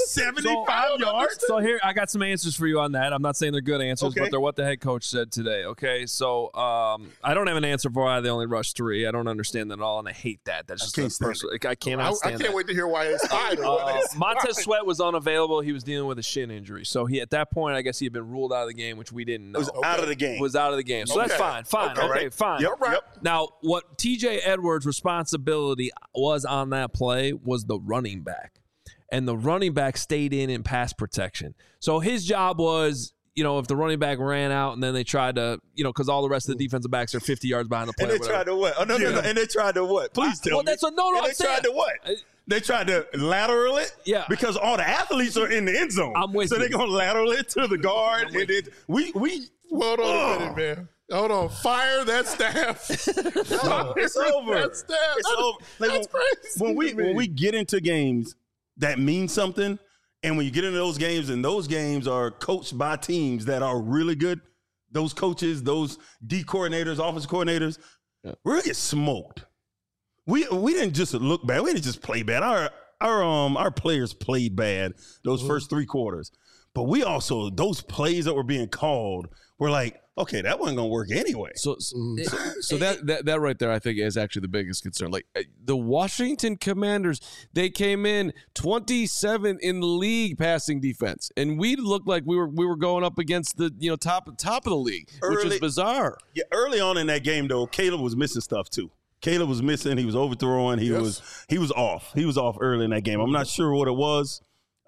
75 yards? So here, I got some answers for you on that. I'm not saying they're good answers, but they're what the head coach said today. Okay, so I don't have an answer for why they only rushed 3. I don't understand that at all, and I hate that. That's just personal. I cannot stand that. I can't wait to hear why they spied. Montez Sweat was unavailable. He was dealing with a shin injury, so at that point, I guess he had been ruled out of the game, which we didn't know. Was out of the game. Was out of the game. So that's fine. Okay, fine. Yep. Now, what TJ Edwards' responsibility was on that play was the running back, and the running back stayed in pass protection. So his job was, if the running back ran out and then they tried to, because all the rest of the defensive backs are 50 yards behind the play. And they tried to what? Oh, no. And they tried to what? Please tell me. That's a no. They tried to what? They tried to lateral it? Yeah. Because all the athletes are in the end zone. I'm with you. So they're going to lateral it to the guard. Hold on a minute, man. Hold on. Fire that staff. It's over. It's over. Like, that's crazy. When we get into games that mean something, and when you get into those games, and those games are coached by teams that are really good, those coaches, those D coordinators, offensive coordinators, we're going to get smoked. We didn't just look bad. We didn't just play bad. Our players played bad those first 3 quarters. But we also, those plays that were being called were like, okay, that wasn't going to work anyway. So that right there, I think, is actually the biggest concern. Like the Washington Commanders, they came in 27 in the league passing defense, and we looked like we were going up against the top of the league, which is bizarre. Yeah, early on in that game though, Caleb was missing stuff too. Caleb was missing. He was overthrowing. He was off. He was off early in that game. I'm not sure what it was,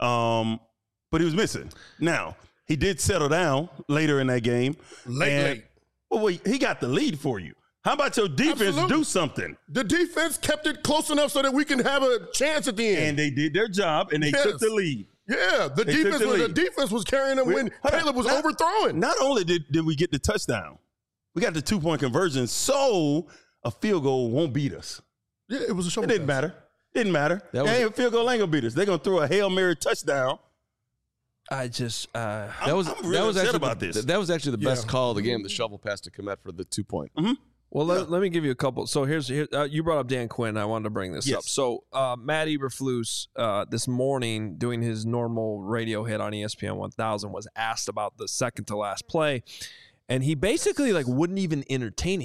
but he was missing. Now he did settle down later in that game. Late. Well, wait, he got the lead for you. How about your defense do something? The defense kept it close enough so that we can have a chance at the end. And they did their job, and they took the lead. Yeah, the defense was carrying them when Caleb was overthrowing. Not only did we get the touchdown, we got the 2-point conversion, so a field goal won't beat us. Yeah, it was a show. It didn't matter. A field goal ain't gonna beat us. They're gonna throw a Hail Mary touchdown. I just I'm really upset about this. That was actually the best call of the game, the shovel pass to Kmet for the 2-point. Mm-hmm. Well, let me give you a couple. So here you brought up Dan Quinn. I wanted to bring this up. So Matt Eberflus this morning doing his normal radio hit on ESPN 1000 was asked about the second to last play, and he basically wouldn't even entertain it.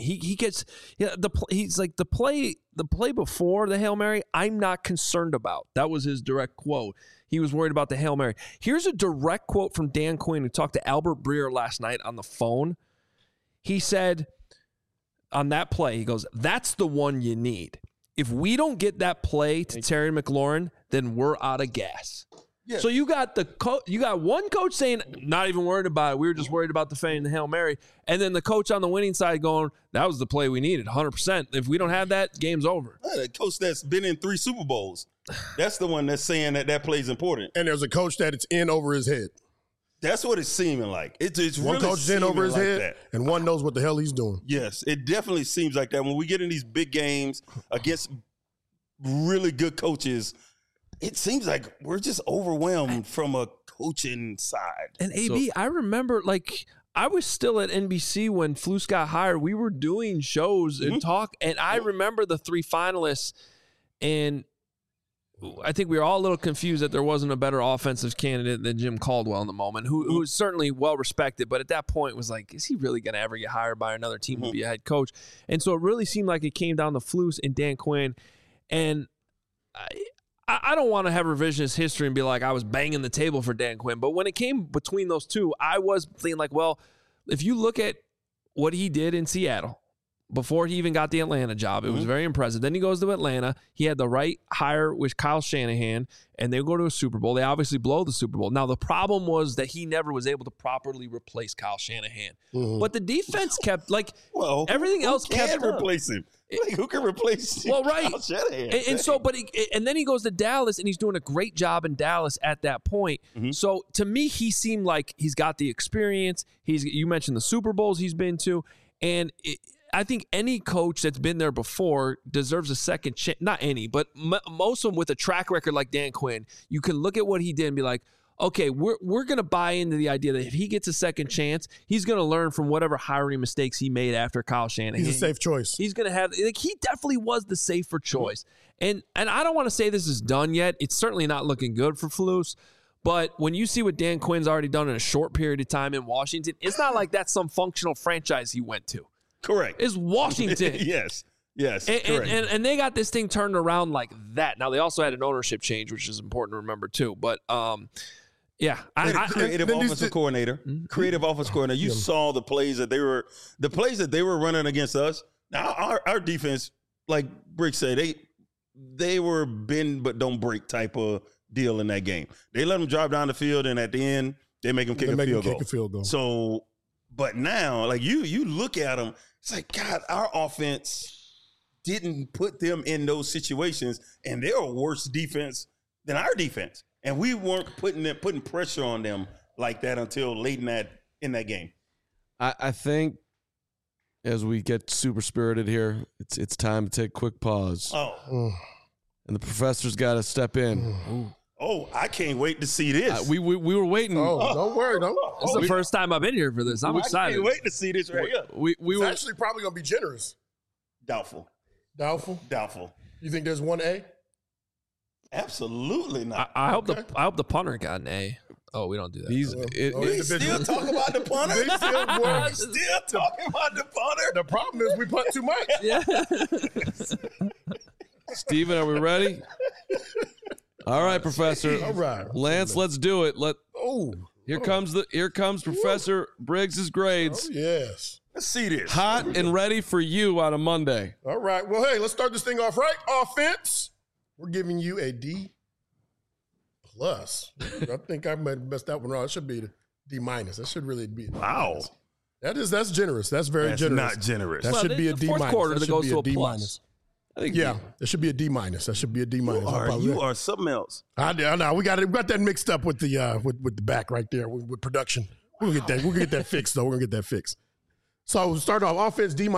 He's like the play before the Hail Mary, I'm not concerned about. That was his direct quote. He was worried about the Hail Mary. Here's a direct quote from Dan Quinn, who talked to Albert Breer last night on the phone. He said on that play, he goes, "That's the one you need. If we don't get that play to Terry McLaurin, then we're out of gas." Yeah. So you got you got one coach saying, not even worried about it. We were just worried about defending the Hail Mary. And then the coach on the winning side going, that was the play we needed, 100%. If we don't have that, game's over. The coach that's been in 3 Super Bowls, that's the one that's saying that play's important. And there's a coach that it's in over his head. That's what it's seeming like. It's one really coach is in over his head, that. And one knows what the hell he's doing. Yes, it definitely seems like that. When we get in these big games against really good coaches, it seems like we're just overwhelmed from a coaching side. And AB, I remember, I was still at NBC when Flus got hired. We were doing shows and talk, and I remember the 3 finalists, and I think we were all a little confused that there wasn't a better offensive candidate than Jim Caldwell in the moment, who was certainly well-respected, but at that point was like, is he really going to ever get hired by another team to be a head coach? And so it really seemed like it came down to Flus and Dan Quinn, and I don't want to have revisionist history and be like I was banging the table for Dan Quinn, but when it came between those two, I was thinking well, if you look at what he did in Seattle before he even got the Atlanta job, it was very impressive. Then he goes to Atlanta. He had the right hire with Kyle Shanahan, and they go to a Super Bowl. They obviously blow the Super Bowl. Now, the problem was that he never was able to properly replace Kyle Shanahan. But the defense kept, everything else kept replace him. Who can replace Kyle Shanahan? And so, and then he goes to Dallas, and he's doing a great job in Dallas at that point. So, to me, he seemed like he's got the experience. You mentioned the Super Bowls he's been to, and I think any coach that's been there before deserves a second chance. Not any, but most of them with a track record like Dan Quinn. You can look at what he did and be like, okay, we're going to buy into the idea that if he gets a second chance, he's going to learn from whatever hiring mistakes he made after Kyle Shanahan. He's a safe choice. He's going to have he definitely was the safer choice. And I don't want to say this is done yet. It's certainly not looking good for Flus. But when you see what Dan Quinn's already done in a short period of time in Washington, it's not like that's some functional franchise he went to. Correct. It's Washington. Yes. And they got this thing turned around like that. Now, they also had an ownership change, which is important to remember, too. But, creative offensive coordinator. Creative offensive coordinator. You saw the plays that they were running against us. Now, our defense, like Brick said, they were bend but don't break type of deal in that game. They let them drive down the field, and at the end, they make them kick a field goal. So, but now, you look at them, it's like, God, our offense didn't put them in those situations, and they're a worse defense than our defense. And we weren't putting pressure on them like that until late in that game. I think as we get super spirited here, it's time to take a quick pause. And the professor's got to step in. Oh, I can't wait to see this. We were waiting. Don't worry. This is the first time I've been here for this. I'm excited. I can't wait to see this right here. It's actually probably going to be generous. Doubtful. You think there's one A? Absolutely not. I hope the punter got an A. Oh, we don't do that. He's We still talk about the punter. Still talking about the punter. The problem is we punt too much. Yeah. Steven, are we ready? All right, Professor. All right. Lance, let's do it. Oh, Here comes Professor Briggs's grades. yes. Let's see this. Hot and ready for you on a Monday. All right. Well, hey, let's start this thing off right. Offense. We're giving you a D+. I think I might have messed that one wrong. It should be the D-. That should really be. Wow. That's generous. That's very That's generous. not generous. That should be a the D-. fourth quarter That that should goes be to a a D-. plus. I think Yeah, it should be a D-. That should be a D-. You are something else. I know. We got that mixed up with the with the back right there with production. We'll get that. We're gonna get that fixed though. We're gonna get that fixed. So we'll start off offense D-.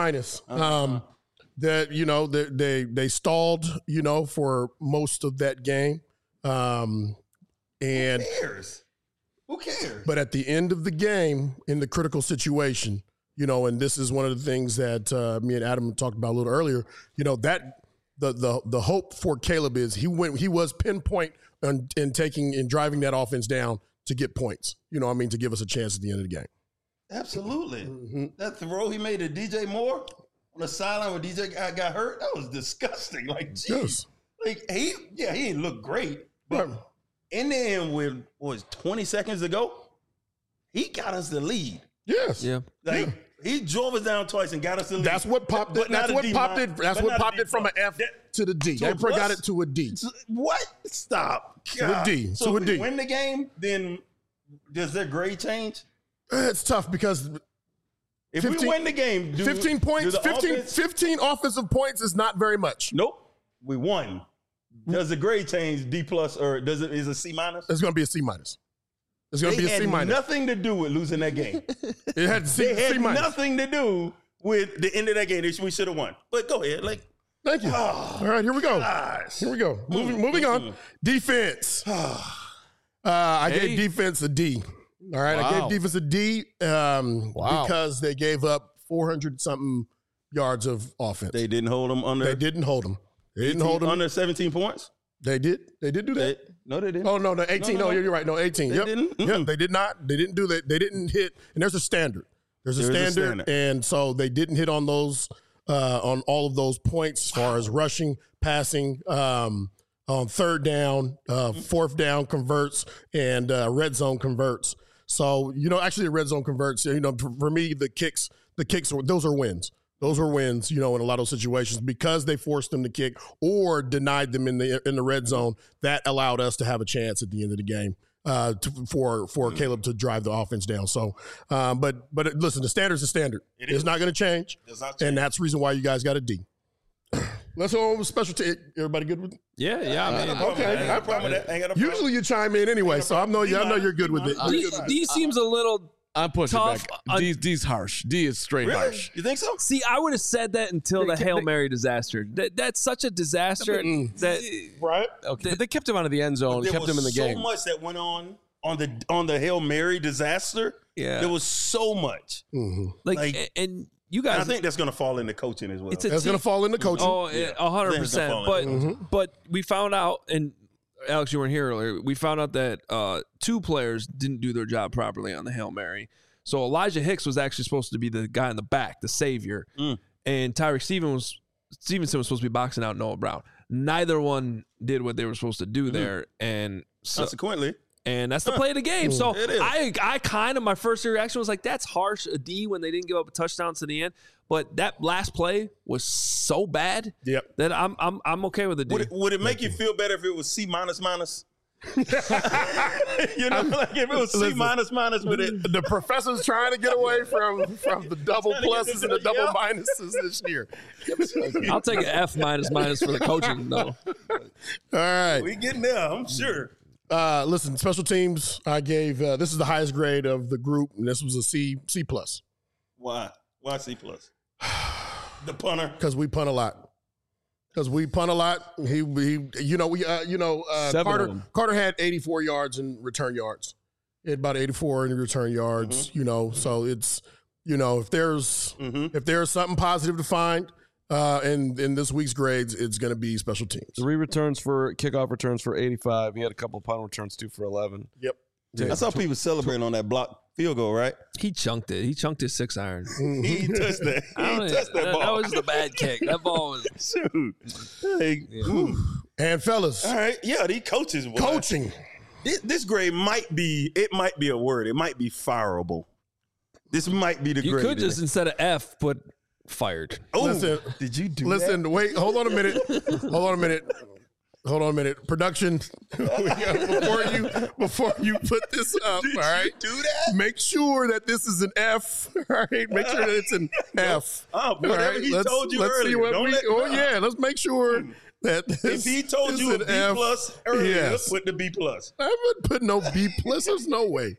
That they stalled for most of that game. Who And cares? Who cares? but at the end of the game, in the critical situation, and this is one of the things that me and Adam talked about a little earlier. That the hope for Caleb is he was pinpoint in taking and driving that offense down to get points. To give us a chance at the end of the game. Absolutely. That throw he made to DJ Moore on the sideline when DJ got hurt, that was disgusting. Like, geez. Yes. Like, he didn't look great, but in the end, with 20 seconds to go, he got us the lead. Yes. Yeah. Like, he drove us down twice and got us the lead. That's what popped it. But not That's a what D popped it. minus. That's But what not a popped D it from an F to the D. To They a plus? got it to a D. What? Stop. To a D. So To a if D. we win the game, then does their grade change? It's tough because If 15 we win the game, 15 points, do the 15, offense- 15 offensive points is not very much. Nope. We won. Does the grade change D plus or is it a C minus? It's going to be a C minus. It's going to They be a C had minus. nothing to do with losing that game. It had They C had minus. nothing to do with the end of that game. We should have won. But go ahead. Like, Thank you. All right, here we go. gosh. Here we go. Moving on. Defense. I gave defense a D. All right, I Wow. gave defense a D because they gave up 400-something yards of offense. They didn't hold them under. They didn't hold them. They didn't hold them. under 17 points. They did. They did do that. No, they didn't. Oh no, 18. No. You're right. No, 18. They Yep. didn't? Yep. Mm-mm. They did not. They didn't do that. They didn't hit. And there's a standard. There's a There is a standard, standard. and so they didn't hit on those on all of those points as far as rushing, passing, on third down, fourth down converts, and red zone converts. So actually, the red zone converts. For me, the kicks, those are wins. Those were wins, in a lot of those situations because they forced them to kick or denied them in the red zone. That allowed us to have a chance at the end of the game for Caleb to drive the offense down. So, but listen, the standard's the standard. It's not going to change, and that's the reason why you guys got a D. Let's go over special team. Everybody good with it? Yeah. I mean, Okay. I ain't got a problem with that. Ain't got a problem. Usually you chime in anyway, so I know you're good with it. D seems a little. I'm pushing Tough. back. D's harsh. D is straight Really? harsh. You think so? See, I would have said that until the Hail Mary disaster. That's such a disaster that Right? Okay, but they kept him out of the end zone. There Kept was him in the so game. much that went on the Hail Mary disaster. Yeah. There was so much. like and you And guys. I think that's going to fall into coaching as well. It's a That's going to fall into coaching. Oh, Yeah. 100%. But- But we found out, and Alex, you weren't here earlier. We found out that two players didn't do their job properly on the Hail Mary. So Elijah Hicks was actually supposed to be the guy in the back, the savior, and Tyreek Stevenson was supposed to be boxing out Noah Brown. Neither one did what they were supposed to do there, and so. Consequently, And that's the play of the game. So It is. I kind of, my first reaction was like, that's harsh, a D, when they didn't give up a touchdown to the end. But that last play was so bad that I'm okay with a D. would it make you feel better if it was C minus minus? Like if it was C minus minus with it. The professor's trying to get away from the double Trying to get pluses to and the the- double yeah. minuses this year. I'll take an F minus for the coaching, though. All right. We getting there, I'm sure. Listen, special teams, I gave this is the highest grade of the group, and this was a C plus. Why C plus? The punter. Because we punt a lot. Carter had 84 yards in return yards. He had about 84 in return yards, so it's, if there's something positive to find in this week's grades, it's going to be special teams. 3 returns for kickoff returns for 85. He had a couple of punt returns too for 11. Yep. I saw people celebrating on that block field goal, right? He chunked it. He chunked his 6-iron. He touched that. He touched that ball. That was the bad kick. That ball was. Shoot. Hey, And fellas, all right, yeah, these coaches. Boy. coaching. This grade might be a word. It might be fireable. This might be the You grade. could just, instead of F, put fired. Oh, Listen, did you do Listen, wait, hold on a minute. Hold on a minute. Production, before you put this up, all right? do that? Make sure that this is an F, all right? Make sure that it's an F. Oh, whatever he told you earlier. Let's make sure that If he told you a B plus earlier, yes. put the B plus. I haven't put no B plus. There's no way.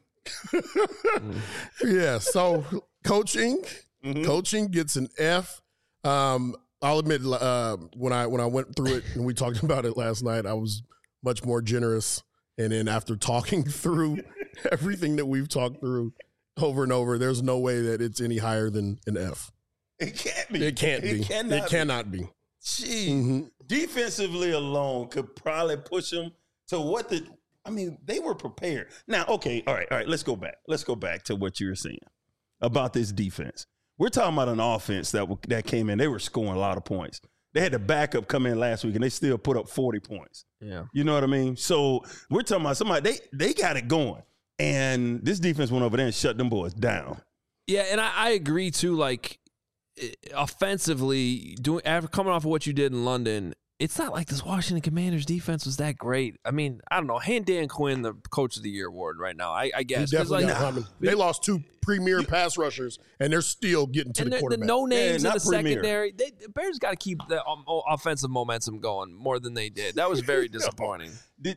Yeah, so coaching gets an F. I'll admit, when I went through it and we talked about it last night, I was much more generous. And then after talking through everything that we've talked through over and over, there's no way that it's any higher than an F. It can't be. It can't be. It cannot be. Gee, defensively alone could probably push them to what the. I mean, they were prepared. Now, okay, all right. Let's go back. Let's go back to what you were saying about this defense. We're talking about an offense that came in. They were scoring a lot of points. They had the backup come in last week, and they still put up 40 points. Yeah, you know what I mean. So we're talking about somebody they got it going, and this defense went over there and shut them boys down. Yeah, and I agree too. Like offensively, after coming off of what you did in London, it's not like this Washington Commanders defense was that great. I mean, I don't know. Hand Dan Quinn the Coach of the Year award right now. I guess He definitely got Humming. They lost 2 premier pass rushers, and they're still getting to the quarterback. The no names in the premier. secondary. The Bears got to keep the offensive momentum going more than they did. That was very disappointing.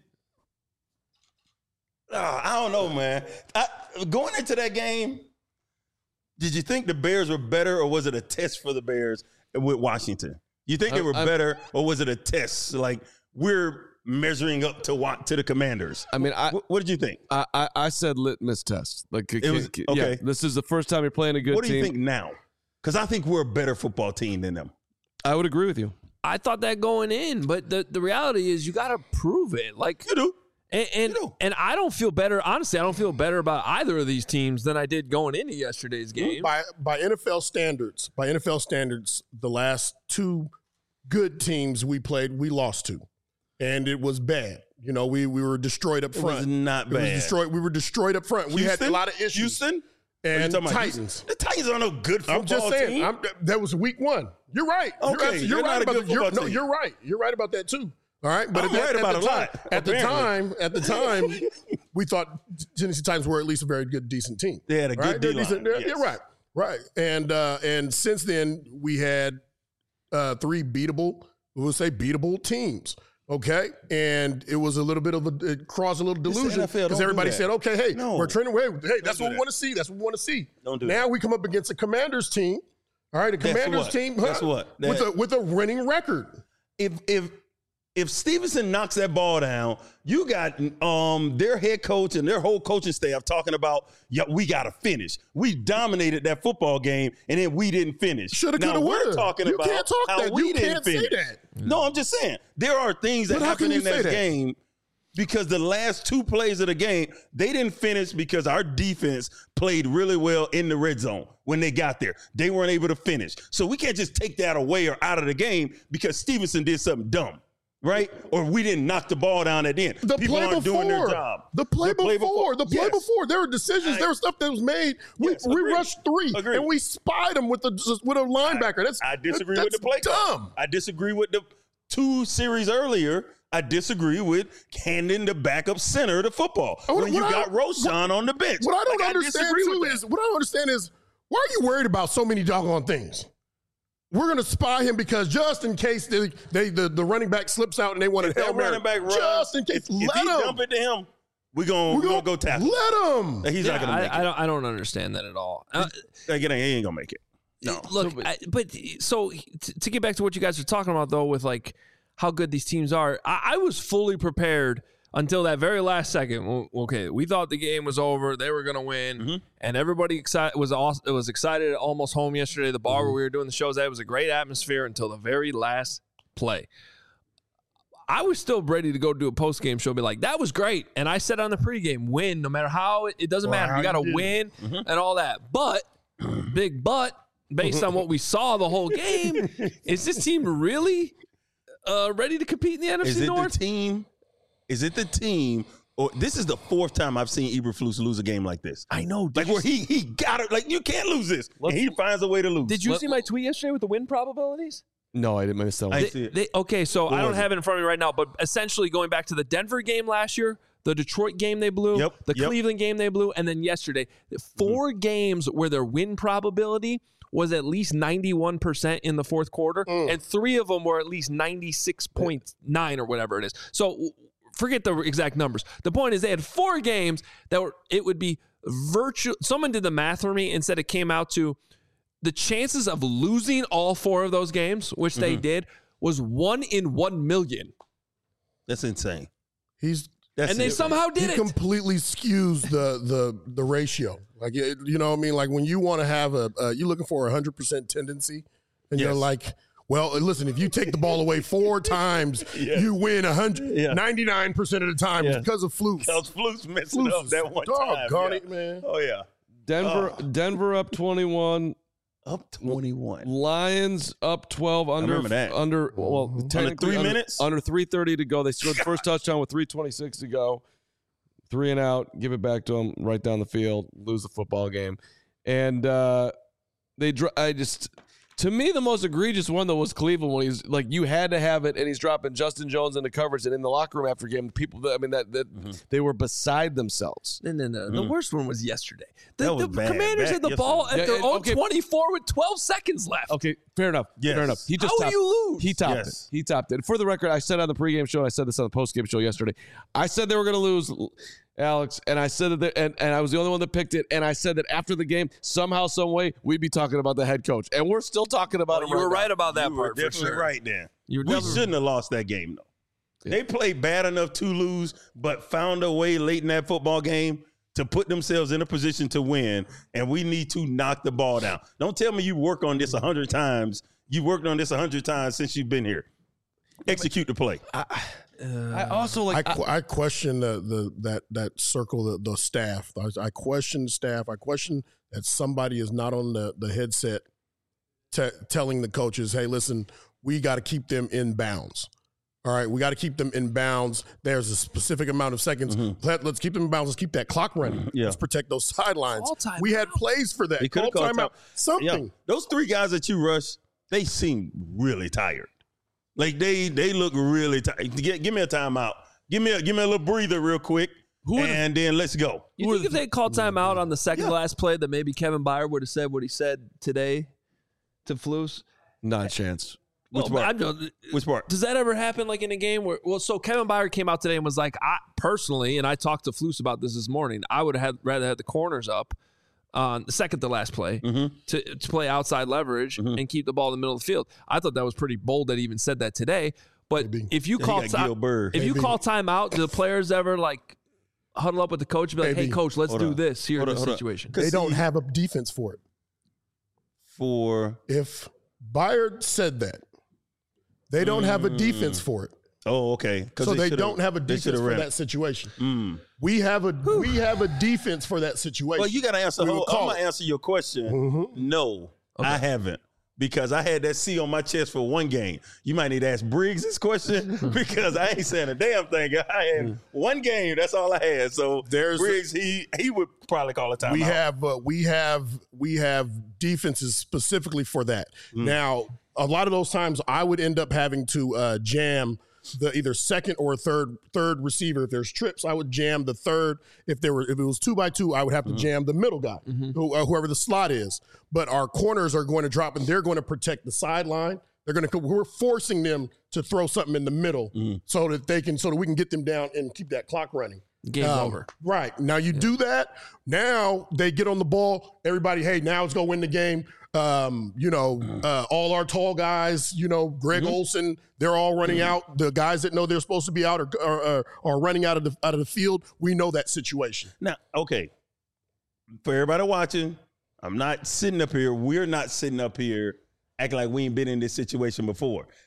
I don't know, man. Going into that game, did you think the Bears were better, or was it a test for the Bears with Washington? You think they were better, or was it a test? Like, we're measuring up to the Commanders. I mean, what did you think? I said litmus test. Like, It was- yeah, okay. this is the first time you're playing a good What do team. you think now? Because I think we're a better football team than them. I would agree with you. I thought that going in, but the reality is you got to prove it. Like You do. And I don't feel better. Honestly, I don't feel better about either of these teams than I did going into yesterday's game. By NFL standards, the last 2 good teams we played, we lost to, and it was bad. You know, we were destroyed up front. It was not bad. We were destroyed up front. We had a lot of issues. Houston and Are you talking about Titans. Houston? The Titans aren't no good football I'm just saying. team. That was week 1. You're right. Okay, you're they're right not a about good football team. You're right. You're right about that too. All right, but I'm right about a lot, At the time, we thought Tennessee Titans were at least a very good, decent team. They had a good They're D-line, decent. yes. Yeah, right. And since then we had 3 beatable teams. Okay, and it was a little bit of it caused a little delusion NFL, don't because do everybody that. said, "Okay, hey, No. we're trending away. Hey, that's do what we that. want to see. That's what we want to see." Don't do now that. we come up against a Commanders team. All right, a Guess Commanders what? team. Guess what? With a winning record. If Stevenson knocks that ball down, you got their head coach and their whole coaching staff talking about, we got to finish. We dominated that football game, and then we didn't finish. Shoulda, Now coulda, we're woulda. talking You about can't talk how that. we You didn't can't say finish. that. No, I'm just saying there are things that But how happened can in you say that that? game because the last 2 plays of the game, they didn't finish because our defense played really well in the red zone when they got there. They weren't able to finish. So we can't just take that away or out of the game because Stevenson did something dumb. Right? Or we didn't knock the ball down at the end. The People play aren't before, doing their job. the play before, Yes. there were decisions, there was stuff that was made. We Agreed. rushed 3 Agreed. and we spied them with a linebacker. I disagree with the play call. dumb. I disagree with the 2 series earlier. I disagree with handing the backup center the football when you got Roshan on the bench. What I don't Like, understand disagree too with is why are you worried about so many doggone things? We're going to spy him because just in case the running back slips out and they want to that Hail Mary. running back runs, Just in case, if let he him. dump it to him, we're gonna go tackle. Let him. He's not gonna make it. I don't understand that at all. Like, he ain't gonna make it. No. Look, to get back to what you guys are talking about, though, with like how good these teams are, I was fully prepared until that very last second. Okay, we thought the game was over; they were going to win, and everybody was excited almost home yesterday. The bar where we were doing the shows, that was a great atmosphere until the very last play. I was still ready to go do a post-game show, be like, that was great. And I said on the pregame, win, no matter how, it doesn't matter. You got to win and all that. But, big but, based on what we saw the whole game, is this team really ready to compete in the NFC North? Is it the team? Or this is the fourth time I've seen Eberflus lose a game like this. I know. Like where he got it. Like, you can't lose this. And he finds a way to lose. Did you see my tweet yesterday with the win probabilities? No, I didn't miss that one. Okay, so I don't have it in front of me right now, but essentially going back to the Denver game last year, the Detroit game they blew, the Cleveland game they blew, and then yesterday, 4 games where their win probability was at least 91% in the fourth quarter, and 3 of them were at least 96.9 or whatever it is. So forget the exact numbers. The point is they had 4 games that it would be virtual. Someone did the math for me and said it came out to the chances of losing all 4 of those games, which they did, was 1 in 1 million. That's insane. They somehow did it. He completely skews the ratio. Like, you know what I mean? Like when you want to have you're looking for a 100% tendency, and you're like, well, listen, if you take the ball away 4 times, you win 99% of the time because of Flus. Because Flus messed it up that one time. Doggone it, man. Oh, yeah. Denver up 21. Up 21. Lions up 12 under. I remember that. Under 3 minutes? Under 3:30 to go. They scored the first touchdown with 3:26 to go. 3 and out. Give it back to them right down the field. Lose the football game. And to me, the most egregious one, though, was Cleveland when he's like, you had to have it, and he's dropping Justin Jones into coverage. And in the locker room after game, people, they were beside themselves. No. The worst one was yesterday. The bad. Commanders had the ball at their own 24 with 12 seconds left. Okay, fair enough. Yes. Fair enough. How do you lose? He topped it. He topped it. For the record, I said on the pregame show, and I said this on the postgame show yesterday, I said they were going to lose, Alex, and I said that, and I was the only one that picked it, and I said that after the game, somehow, some way, we'd be talking about the head coach, and we're still talking about him. You were right about that part. You were definitely right there. We never shouldn't have lost that game, though. Yeah. They played bad enough to lose, but found a way late in that football game to put themselves in a position to win, and we need to knock the ball down. Don't tell me you work on this 100 times. You worked on this 100 times since you've been here. Execute the play. I also I question that circle, the staff. I question the staff. I question that somebody is not on the headset telling the coaches, hey, listen, we got to keep them in bounds. All right, we got to keep them in bounds. There's a specific amount of seconds. Let's keep them in bounds. Let's keep that clock running. Let's protect those sidelines. We had plays for that. Call timeout. Something. Yeah. Those 3 guys that you rushed, they seem really tired. Like they look really tired. Give me a timeout. Give me a little breather real quick, and then let's go. You think if they called timeout on the second to last play, that maybe Kevin Byard would have said what he said today to Flus? Not a chance. Which part? Does that ever happen like in a game where, so Kevin Byard came out today and was like, I personally, and I talked to Flus about this morning, I would have rather had the corners up on the second to last play to play outside leverage and keep the ball in the middle of the field. I thought that was pretty bold that he even said that today. But if you call timeout, do the players ever like huddle up with the coach and be like, hey, coach, let's do this here in this situation? They don't have a defense for it. If Byard said that, they don't have a defense for it. Oh, okay. So they don't have a defense for that situation. We have a defense for that situation. Well, you got to answer. I'm going to answer your question. No, I haven't. Because I had that C on my chest for one game. You might need to ask Briggs this question because I ain't saying a damn thing. I had one game. That's all I had. So Briggs, he would probably call a timeout. We have defenses specifically for that. Now, a lot of those times I would end up having to jam the either second or third receiver. If there's trips, I would jam the third. If it was 2x2, I would have to jam the middle guy, whoever the slot is. But our corners are going to drop, and they're going to protect the sideline. We're forcing them to throw something in the middle so that we can get them down and keep that clock running. Game's over. Right. Now you do that. Now they get on the ball. Everybody, hey, now it's going to win the game. All our tall guys, Greg Olsen, they're all running out. The guys that know they're supposed to be out are running out of the field. We know that situation. Now, okay, for everybody watching, I'm not sitting up here. We're not sitting up here acting like we ain't been in this situation before.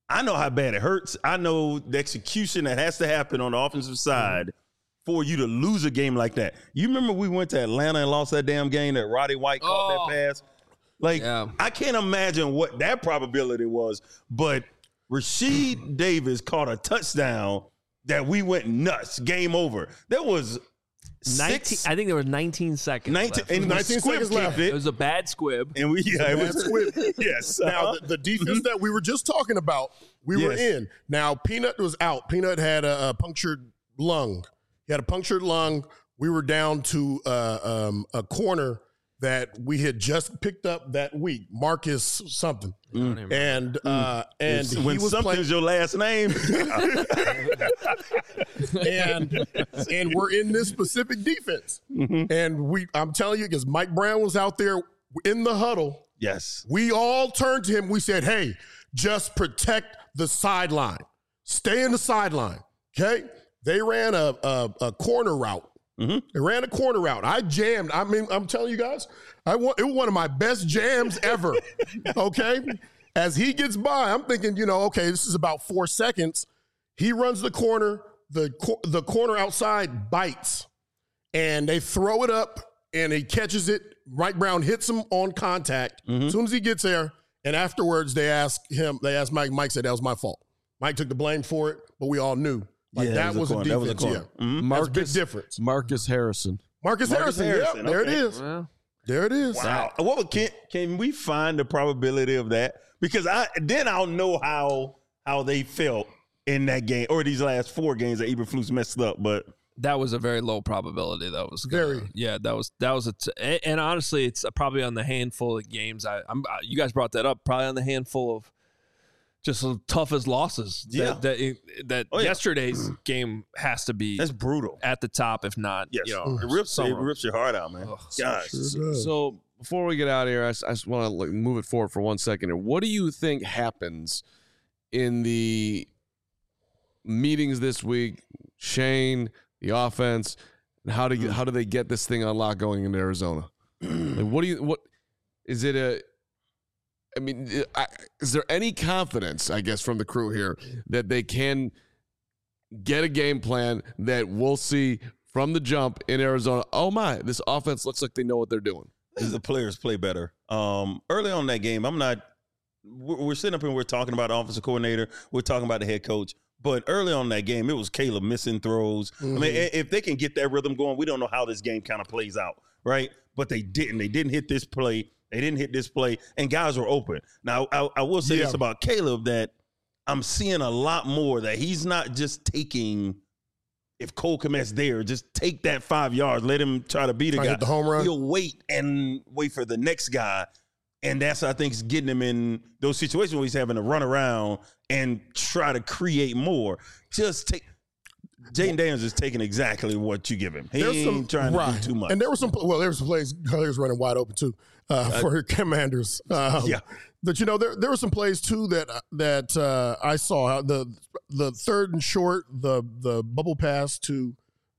I know how bad it hurts. I know the execution that has to happen on the offensive side for you to lose a game like that. You remember we went to Atlanta and lost that damn game that Roddy White caught that pass? Like, I can't imagine what that probability was, but Rasheed Davis caught a touchdown that we went nuts. Game over. There was 19, I think there was 19 seconds. 19 seconds left. It was a bad squib. And it was squib. Yes. Now the defense that we were just talking about, we were in. Now Peanut was out. Peanut had a punctured lung. He had a punctured lung. We were down to a corner that we had just picked up that week, Marcus something, and he when was something's your last name, and we're in this specific defense, and I'm telling you, because Mike Brown was out there in the huddle. Yes, we all turned to him. We said, "Hey, just protect the sideline, stay in the sideline." Okay, they ran a corner route. They ran a corner route. I jammed. I mean, I'm telling you guys, it was one of my best jams ever. Okay? As he gets by, I'm thinking, okay, this is about 4 seconds. He runs the corner. The corner outside bites. And they throw it up, and he catches it. Mike Brown hits him on contact. As soon as he gets there, and afterwards they asked Mike. Mike said, that was my fault. Mike took the blame for it, but we all knew. That was a defense. That's a big difference. Marcus Harrison. Marcus Harrison. Yeah, there it is. Well, there it is. Wow. Can we find the probability of that? Because I'll know how they felt in that game or these last 4 games that Eberflus messed up. But that was a very low probability. That was and honestly, it's probably on the handful of games. You guys brought that up. Probably on the handful of just the toughest losses. Yesterday's game has to be. That's brutal at the top, if not. Yes. It rips your heart out, man. Gosh. So before we get out of here, I just want to move it forward for 1 second here. What do you think happens in the meetings this week? Shane, the offense, and how do they get this thing unlocked going into Arizona? What is it? I mean, is there any confidence, I guess, from the crew here that they can get a game plan that we'll see from the jump in Arizona? Oh, my, this offense looks like they know what they're doing. The players play better. Early on in that game, we're sitting up and we're talking about the offensive coordinator. We're talking about the head coach. But early on in that game, it was Caleb missing throws. I mean, if they can get that rhythm going, we don't know how this game kind of plays out, right? But they didn't. They didn't hit this play. They didn't hit this play, and guys were open. Now, I will say this about Caleb, that I'm seeing a lot more that he's not just taking, if Cole Kmet's there, just take that 5 yards, let him try to beat a guy. Hit the home run. He'll wait for the next guy, and that's, I think, is getting him in those situations where he's having to run around and try to create more. Jaden Daniels is taking exactly what you give him. He ain't trying to do too much. And there were some plays, he was running wide open too for Commanders. But there were some plays too that I saw. The 3rd and short, the bubble pass to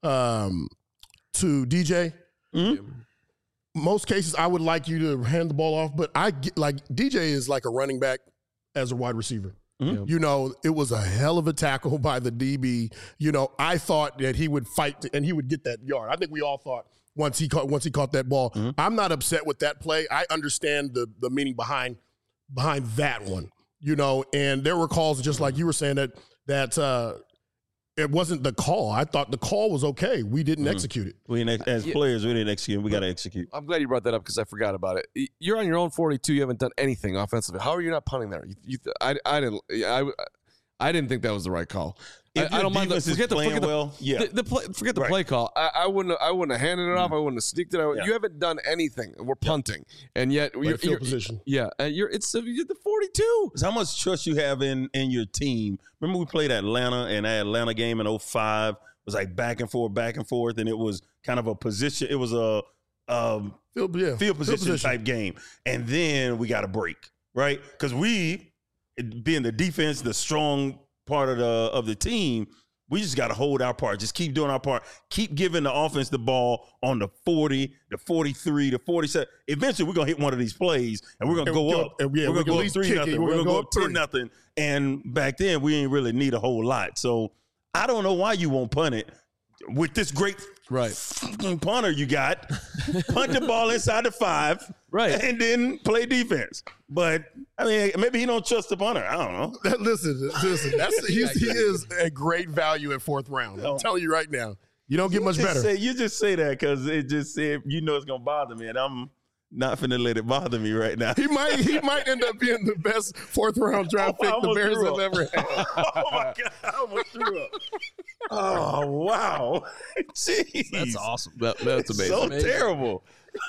DJ. Most cases, I would like you to hand the ball off, but DJ is like a running back as a wide receiver. It was a hell of a tackle by the DB. I thought that he would fight and he would get that yard. I think we all thought once he caught that ball. I'm not upset with that play. I understand the meaning behind that one. And there were calls just like you were saying that it wasn't the call. I thought the call was okay. We didn't execute it. Players, we didn't execute. We got to execute. I'm glad you brought that up because I forgot about it. You're on your own 42. You haven't done anything offensively. How are you not punting there? I didn't think that was the right call. I don't mind. Forget the play call. I wouldn't have handed it off. I wouldn't have sneaked it. You haven't done anything. We're punting, and yet you're position. Yeah, and you're the 42. How much trust you have in your team? Remember we played Atlanta, and that Atlanta game in 2005 was like back and forth, and it was kind of a position. It was a field position type game, and then we got a break, right? Because we, being the defense, the strong part of the team, We just got to hold our part. Just keep doing our part. Keep giving the offense the ball on the 40, the 43, the 47. Eventually, we're going to hit one of these plays, and we're going to go up. Yeah, we're going to go up 3-0. We're going to go up 3-0. 10-0. And back then, we ain't really need a whole lot. So I don't know why you won't punt it with this great punter you got. Punt the ball inside the 5, and then play defense. But I mean, maybe he don't trust the punter. I don't know. Listen. He is a great value at 4th round. I'm telling you right now, you don't get much better. You just say that because it just said it's gonna bother me, and I'm not finna let it bother me right now. He might end up being the best 4th round draft pick the Bears have ever had. Oh my God, I almost threw up. Oh wow, jeez, That's awesome. That's amazing. So terrible.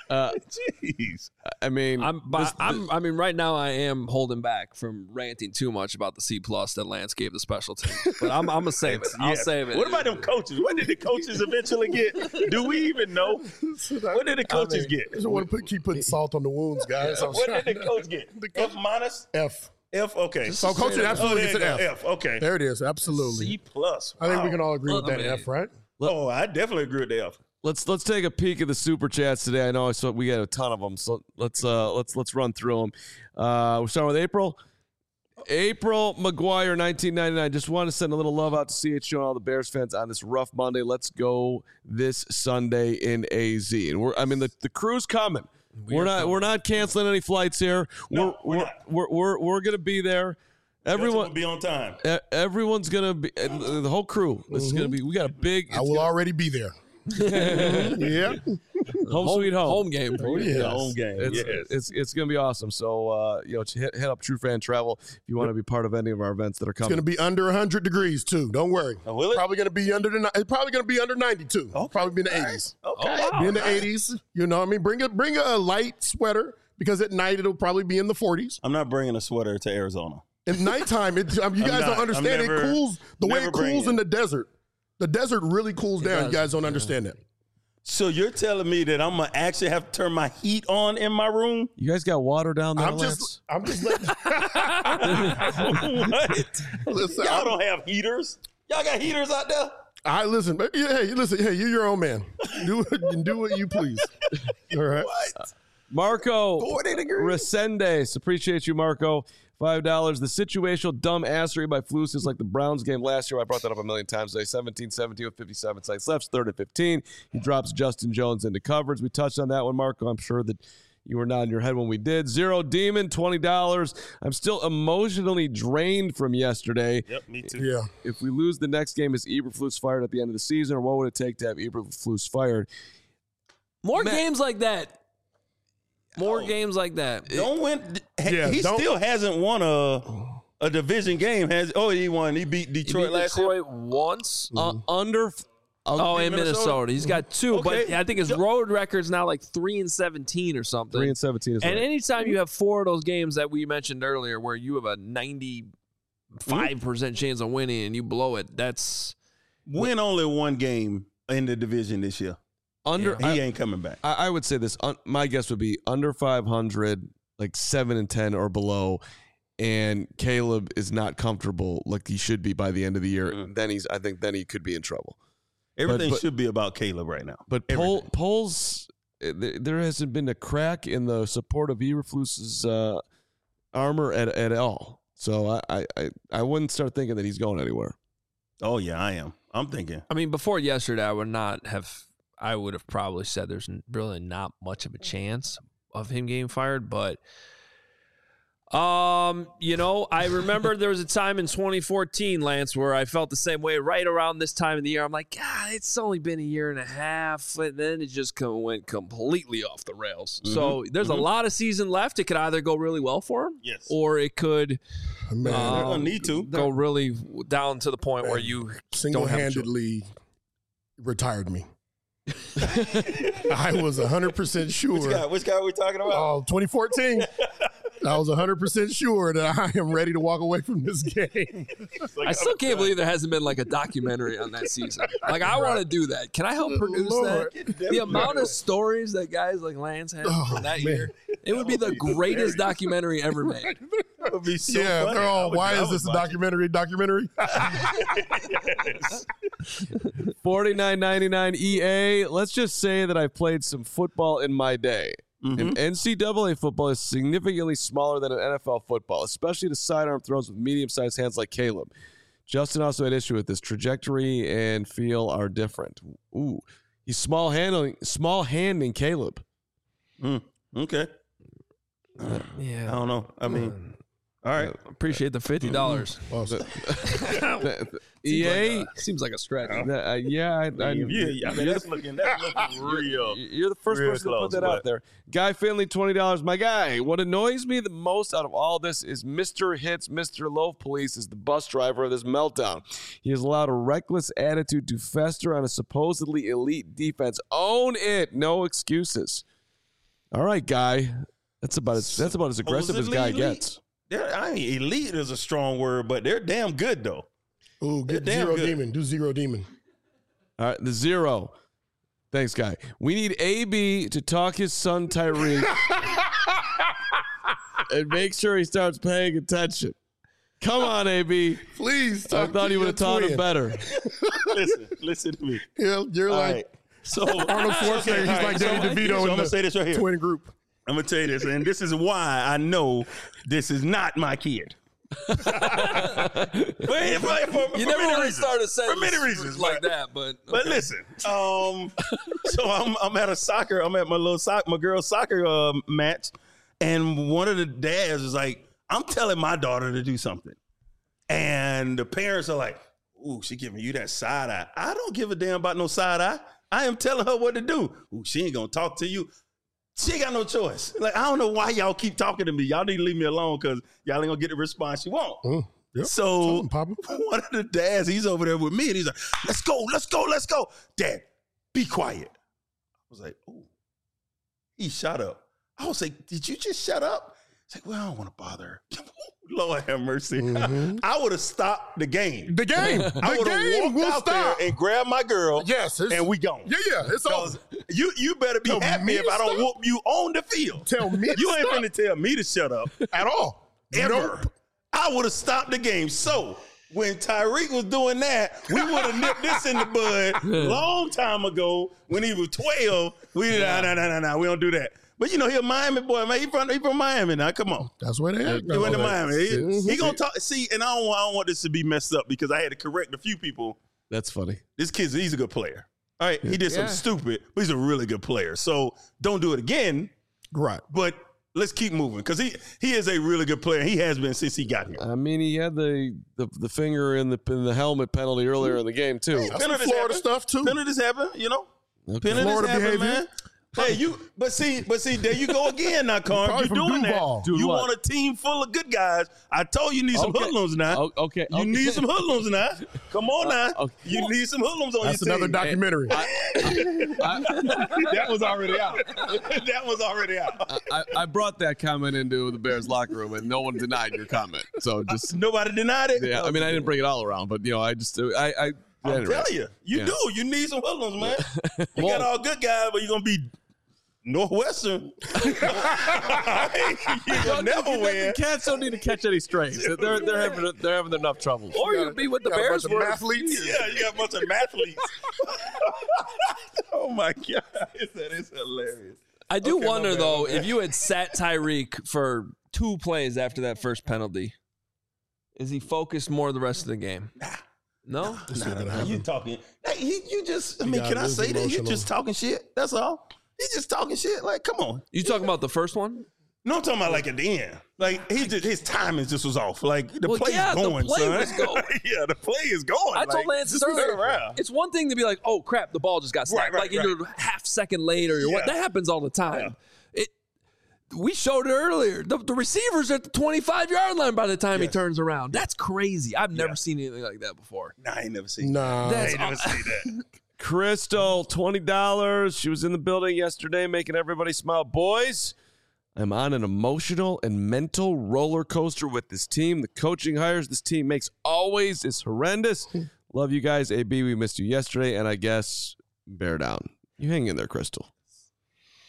Jeez. I mean, I mean, right now I am holding back from ranting too much about the C+ that Lance gave the special team, but I'm gonna save it. I'll save it. What about them coaches? What did the coaches eventually get? Do we even know? What did the coaches get? I just want to keep putting salt on the wounds, guys. What did the coach get? F minus? F. F. Okay. So coaching absolutely gets an F. F. Okay. There it is. Absolutely. C+. Wow. I think we can all agree with that F, right? Oh, I definitely agree with the F. let's take a peek at the super chats today. I know we got a ton of them, so let's run through them. We're starting with April. April McGuire, 1999. Just want to send a little love out to CHO and all the Bears fans on this rough Monday. Let's go this Sunday in AZ. And the crew's coming. We're not canceling any flights here. No, we're gonna be there. Everyone will be on time. Everyone's gonna be the whole crew. This is gonna be. We got a big. I will already be there. Yeah. Home sweet home. Home game for you. Yes. Home game. It's gonna be awesome. So hit up True Fan Travel if you want to be part of any of our events that are It's coming. going to be under 100 degrees too. Don't worry. Oh, will it? Probably going to be under it's probably going to be under 92. Okay. Probably be in the 80s. Okay. Be in the 80s. You know what I mean? Bring a light sweater because at night it'll probably be in the 40s. I'm not bringing a sweater to Arizona. At nighttime, you guys don't understand. It cools the way it cools in the desert. The desert really cools down. You guys don't understand that. So you're telling me that I'm gonna actually have to turn my heat on in my room? You guys got water down there, I'm Lance? just letting. What? Listen, Y'all don't have heaters? Y'all got heaters out there? listen. Hey, you're your own man. Do what you please. All right. What? Marco 40 degrees. Resendes. Appreciate you, Marco. $5. The situational dumb assery by Flus is like the Browns game last year. I brought that up a million times today. 17-17 with 57 seconds left. 3rd and 15. He drops Justin Jones into coverage. We touched on that one, Marco. I'm sure that you were nodding your head when we did. Zero Demon, $20. I'm still emotionally drained from yesterday. Yep, me too. Yeah. If we lose the next game, is Eberflus fired at the end of the season, or what would it take to have Eberflus fired? More games like that. More games like that. Don't win. Yeah, He don't- still hasn't won a division game. He won. He beat Detroit He beat last year. Detroit once. In In Minnesota. He's got 2, Okay. but I think his road record's now like 3-17 or something. 3-17 is And right. anytime you have 4 of those games that we mentioned earlier where you have a 95% chance of winning and you blow it, that's Win only one game in the division this year. He ain't coming back. I would say this. My guess would be under 500, like 7-10 or below, and Caleb is not comfortable like he should be by the end of the year. Then I think he could be in trouble. Everything should be about Caleb right now. But polls, there hasn't been a crack in the support of Eberflus's armor at all. So I wouldn't start thinking that he's going anywhere. Oh yeah, I am. I'm thinking. I mean, before yesterday, I would have probably said there's really not much of a chance of him getting fired, but I remember there was a time in 2014, Lance, where I felt the same way right around this time of the year. I'm like, God, it's only been a year and a half, and then it just went completely off the rails. So there's a lot of season left. It could either go really well for him, Yes. or it could Man, They're gonna need to. go really down to the point where you don't have a choice. single-handedly retired me. I was 100% sure. Which guy are we talking about? Oh, 2014. I was 100% sure that I am ready to walk away from this game. I still can't believe there hasn't been like a documentary on that season. Like, I want to do that. Can I help produce Lord. that? The amount of stories that guys like Lance had from that man. year, it would be the greatest documentary ever made. That would be so Yeah, funny. they're all, why I is would this a watch it. documentary? Yes. $49.99 EA. Let's just say that I've played some football in my day. And NCAA football is significantly smaller than an NFL football, especially the sidearm throws with medium-sized hands like Caleb. Justin also had issue with this. Trajectory and feel are different. Ooh, he's small handing Caleb. Okay. Yeah. I don't know. I mean, all right. Appreciate the $50. EA. Seems like a stretch. Yeah, That's looking real. You're the first real person close, to put that out there. Guy Finley, $20. My guy, what annoys me the most out of all this is Mr. Hits, Mr. Loaf Police is the bus driver of this meltdown. He has allowed a reckless attitude to fester on a supposedly elite defense. Own it. No excuses. All right, Guy. That's about as aggressive as Guy gets. I mean, elite is a strong word, but they're damn good, though. Ooh, get They're damn Zero good. Demon. Do Zero Demon. All right, the zero. Thanks, Guy. We need AB to talk his son Tyreek and make sure he starts paying attention. Come on, AB. Please. I thought he would have taught him better. Listen to me. You're All like right. So Arnold Schwarzenegger. He's like Danny DeVito so I'm in gonna the say this right here. twin group. I'm gonna tell you this, and this is why I know this is not my kid. For You never many really reasons. started saying For many reasons, like but- that, but But listen, so I'm at my girl's soccer match, and one of the dads is like, I'm telling my daughter to do something, and the parents are like, "Ooh, she giving you that side eye." I don't give a damn about no side eye. I am telling her what to do. Ooh, she ain't gonna talk to you. She ain't got no choice. Like, I don't know why y'all keep talking to me. Y'all need to leave me alone because y'all ain't gonna get the response you want. Yep. So Papa. one of the dads, he's over there with me, and he's like, let's go. Dad, be quiet. I was like, oh. He shut up. I was like, did you just shut up? He's like, well, I don't want to bother her. Lord have mercy. I would have stopped the game. The game. I The would have game walked will out stop. there and grabbed my girl, Yes. and we gone. Yeah. It's over. You better be Tell happy me if to I don't stop? whoop you on the field. Tell me to You ain't stop. finna tell me to shut up. At all. Ever. Nope. I would have stopped the game. So when Tyreek was doing that, we would have nipped this in the bud long time ago when he was 12. We no, we don't do that. But you know, he a Miami boy, man. He from Miami now. Come on. That's where they at. He went to Miami. Mhm. He gonna talk. See, and I don't want this to be messed up because I had to correct a few people. That's funny. He's a good player. All right, he did something stupid, but he's a really good player. So don't do it again. Right. But let's keep moving because he is a really good player. He has been since he got here. I mean, he had the finger in the helmet penalty earlier in the game too. That's some Florida stuff too. Penalties happen, you know. Okay. Penalties Florida happen, behavior. man. Hey, but see, there you go again, now, Carm. Probably You're from doing Duval. that. Doing You what? want a team full of good guys. I told you need some Okay. hoodlums now. Okay. You need some hoodlums now. Come on now. okay. You need some hoodlums on That's your another team. documentary. That was already out. That was already out. I brought that comment into the Bears locker room, and no one denied your comment. So just Nobody denied it. yeah. I mean, I didn't bring it all around, but I I'm anyway. telling you, Yeah. do. You need some hoodlums, man. You got all good guys, but you're gonna be Northwestern. You're gonna never win. The Cats don't need to catch any strays. They're having enough trouble. or you could be with the Got a Bears. bunch of were- athletes. Yeah, you got a bunch of mathletes. Oh my god, that is hilarious. I do Okay, my wonder bad, though my bad. if you had sat Tyreek for 2 plays after that first penalty, is he focused more the rest of the game? No. You talking? Hey, you just. I mean, got can I lose say that you emotional. just talking shit? That's all. He's just talking shit. Like, come on. You talking about the first one? No, I'm talking about like at the end. Like his timing just was off. Like the Well, play's yeah, the going, play son. was going. Yeah, the play is going. I told Lance just earlier. turn around. It's one thing to be like, "Oh crap, the ball just got snapped," Right, like you're half second late or you're what. Yeah. That happens all the time. We showed it earlier. The receiver's at the 25-yard line by the time he turns around. That's crazy. I've never seen anything like that before. Nah, I ain't never seen. Nah. that. I That's ain't never seen that. Crystal, $20. She was in the building yesterday making everybody smile. Boys, I'm on an emotional and mental roller coaster with this team. The coaching hires this team makes always is horrendous. Love you guys. AB, we missed you yesterday, and I guess bear down. You hang in there, Crystal.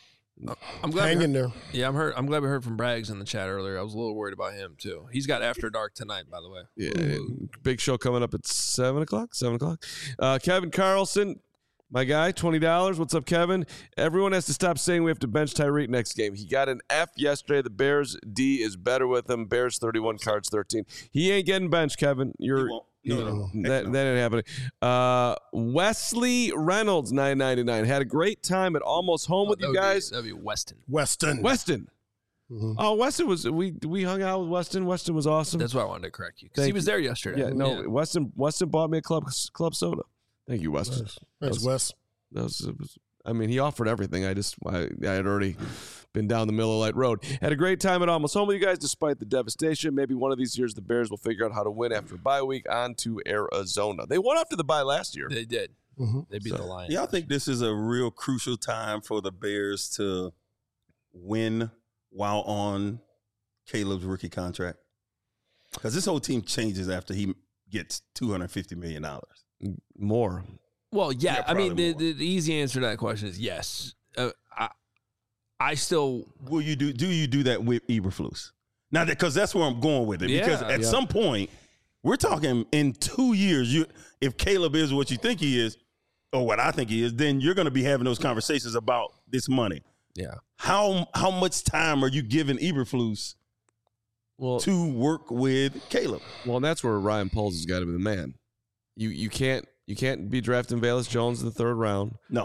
I'm glad. Hang in there. Yeah, I'm glad we heard from Braggs in the chat earlier. I was a little worried about him too. He's got After Dark tonight, by the way. Yeah, big show coming up at 7 o'clock. 7 o'clock. Kevin Carlson, my guy, $20. What's up, Kevin? Everyone has to stop saying we have to bench Tyreek next game. He got an F yesterday. The Bears D is better with him. Bears 31, Cards 13. He ain't getting benched, Kevin. That ain't happening. Wesley Reynolds, $9.99. Had a great time at Almost Home with you guys. That'd be Weston. Weston. Mm-hmm. Oh, Weston was we hung out with Weston. Weston was awesome. That's why I wanted to correct you because he was there yesterday. Yeah, no, Weston bought me a club soda. Thank you, Weston. Thanks, Wes. I mean, he offered everything. I had already been down the Miller Lite Road. Had a great time at Almost Home with you guys, despite the devastation. Maybe one of these years the Bears will figure out how to win after a bye week. On to Arizona. They won after the bye last year. They did. Mm-hmm. They beat the Lions. Yeah, I think this is a real crucial time for the Bears to win while on Caleb's rookie contract. Because this whole team changes after he gets $250 million. More. Well, yeah. I mean, more. the easy answer to that question is yes. I still will. You do you do that with Eberflus now? Because that's where I'm going with it. Because at some point, we're talking in 2 years. If Caleb is what you think he is, or what I think he is, then you're going to be having those conversations about this money. Yeah. How much time are you giving Eberflus to work with Caleb? Well, and that's where Ryan Poles has got to be the man. You can't be drafting Velus Jones in the third round. No,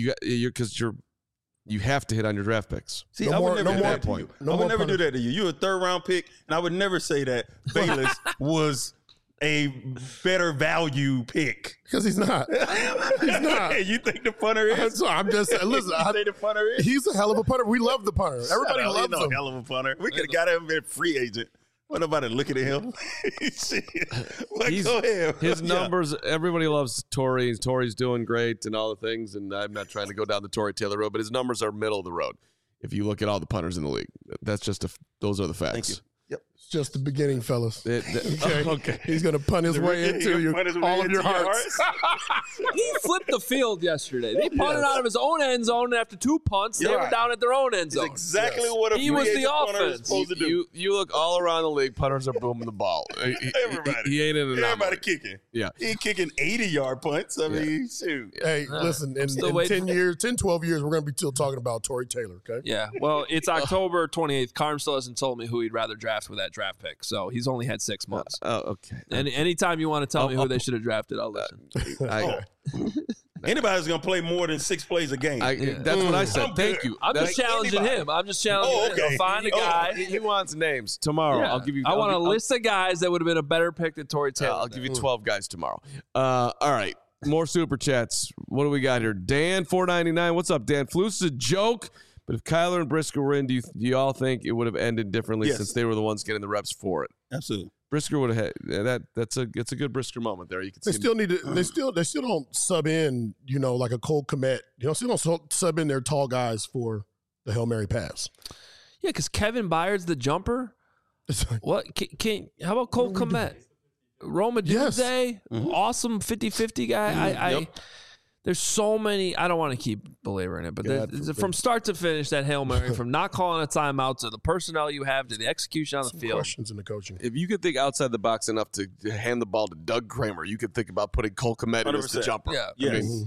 you have to hit on your draft picks. See, I would never do that to you. I would never do that to you. You're a third-round pick, and I would never say that Velus was a better value pick. Because he's not. He's not. You think the punter is? I'm just saying, listen. You think the punter is? He's a hell of a punter. We love the punter. Everybody loves him. Hell of a punter. We could have got him a free agent. What nobody looking at him? Go ahead. His numbers, everybody loves Torrey. Torrey's doing great and all the things, and I'm not trying to go down the Torrey Taylor road, but his numbers are middle of the road. If you look at all the punters in the league, that's just those are the facts. Thank you. Yep. It's just the beginning, fellas. Okay. He's going to punt his way into all of your hearts. He flipped the field yesterday. They punted out of his own end zone, and after 2 punts, they were down at their own end zone. That's exactly what he was the punter is offense. supposed to do. You look all around the league, punters are booming the ball. Everybody. He ain't in an Everybody anomaly. kicking. Yeah. He kicking 80-yard punts. I mean, shoot. Hey, listen, in 10, 12 years, we're going to be still talking about Torrey Taylor, okay? Yeah, well, it's October 28th. Carm still hasn't told me who he'd rather draft with that draft pick, so he's only had 6 months. Okay. And anytime you want to tell me who they should have drafted, I'll listen. Anybody's going to play more than 6 plays a game. That's what I said. Thank you. I'm just challenging him. I'm just challenging him. Find a guy. He wants names tomorrow. Yeah. I'll give you. I want a list of guys that would have been a better pick than Torrey Taylor. I'll give you 12 guys tomorrow. All right. More super chats. What do we got here? Dan, $4.99. What's up, Dan? Flus is a joke. But if Kyler and Brisker were in, do you all think it would have ended differently since they were the ones getting the reps for it? Absolutely. Brisker would have had it's a good Brisker moment there. You can They still need to. They still don't sub in. Like a Cole Kmet. Still don't sub in their tall guys for the Hail Mary pass. Yeah, because Kevin Byard's the jumper. What? How about Cole Kmet? Roma Dunze, awesome 50-50 guy. There's so many. I don't want to keep belaboring it, but from start to finish, that Hail Mary, from not calling a timeout to the personnel you have to the execution on the field. Questions in the coaching. If you could think outside the box enough to hand the ball to Doug Kramer, you could think about putting Cole Kmet in as the jumper. Yeah. Yes.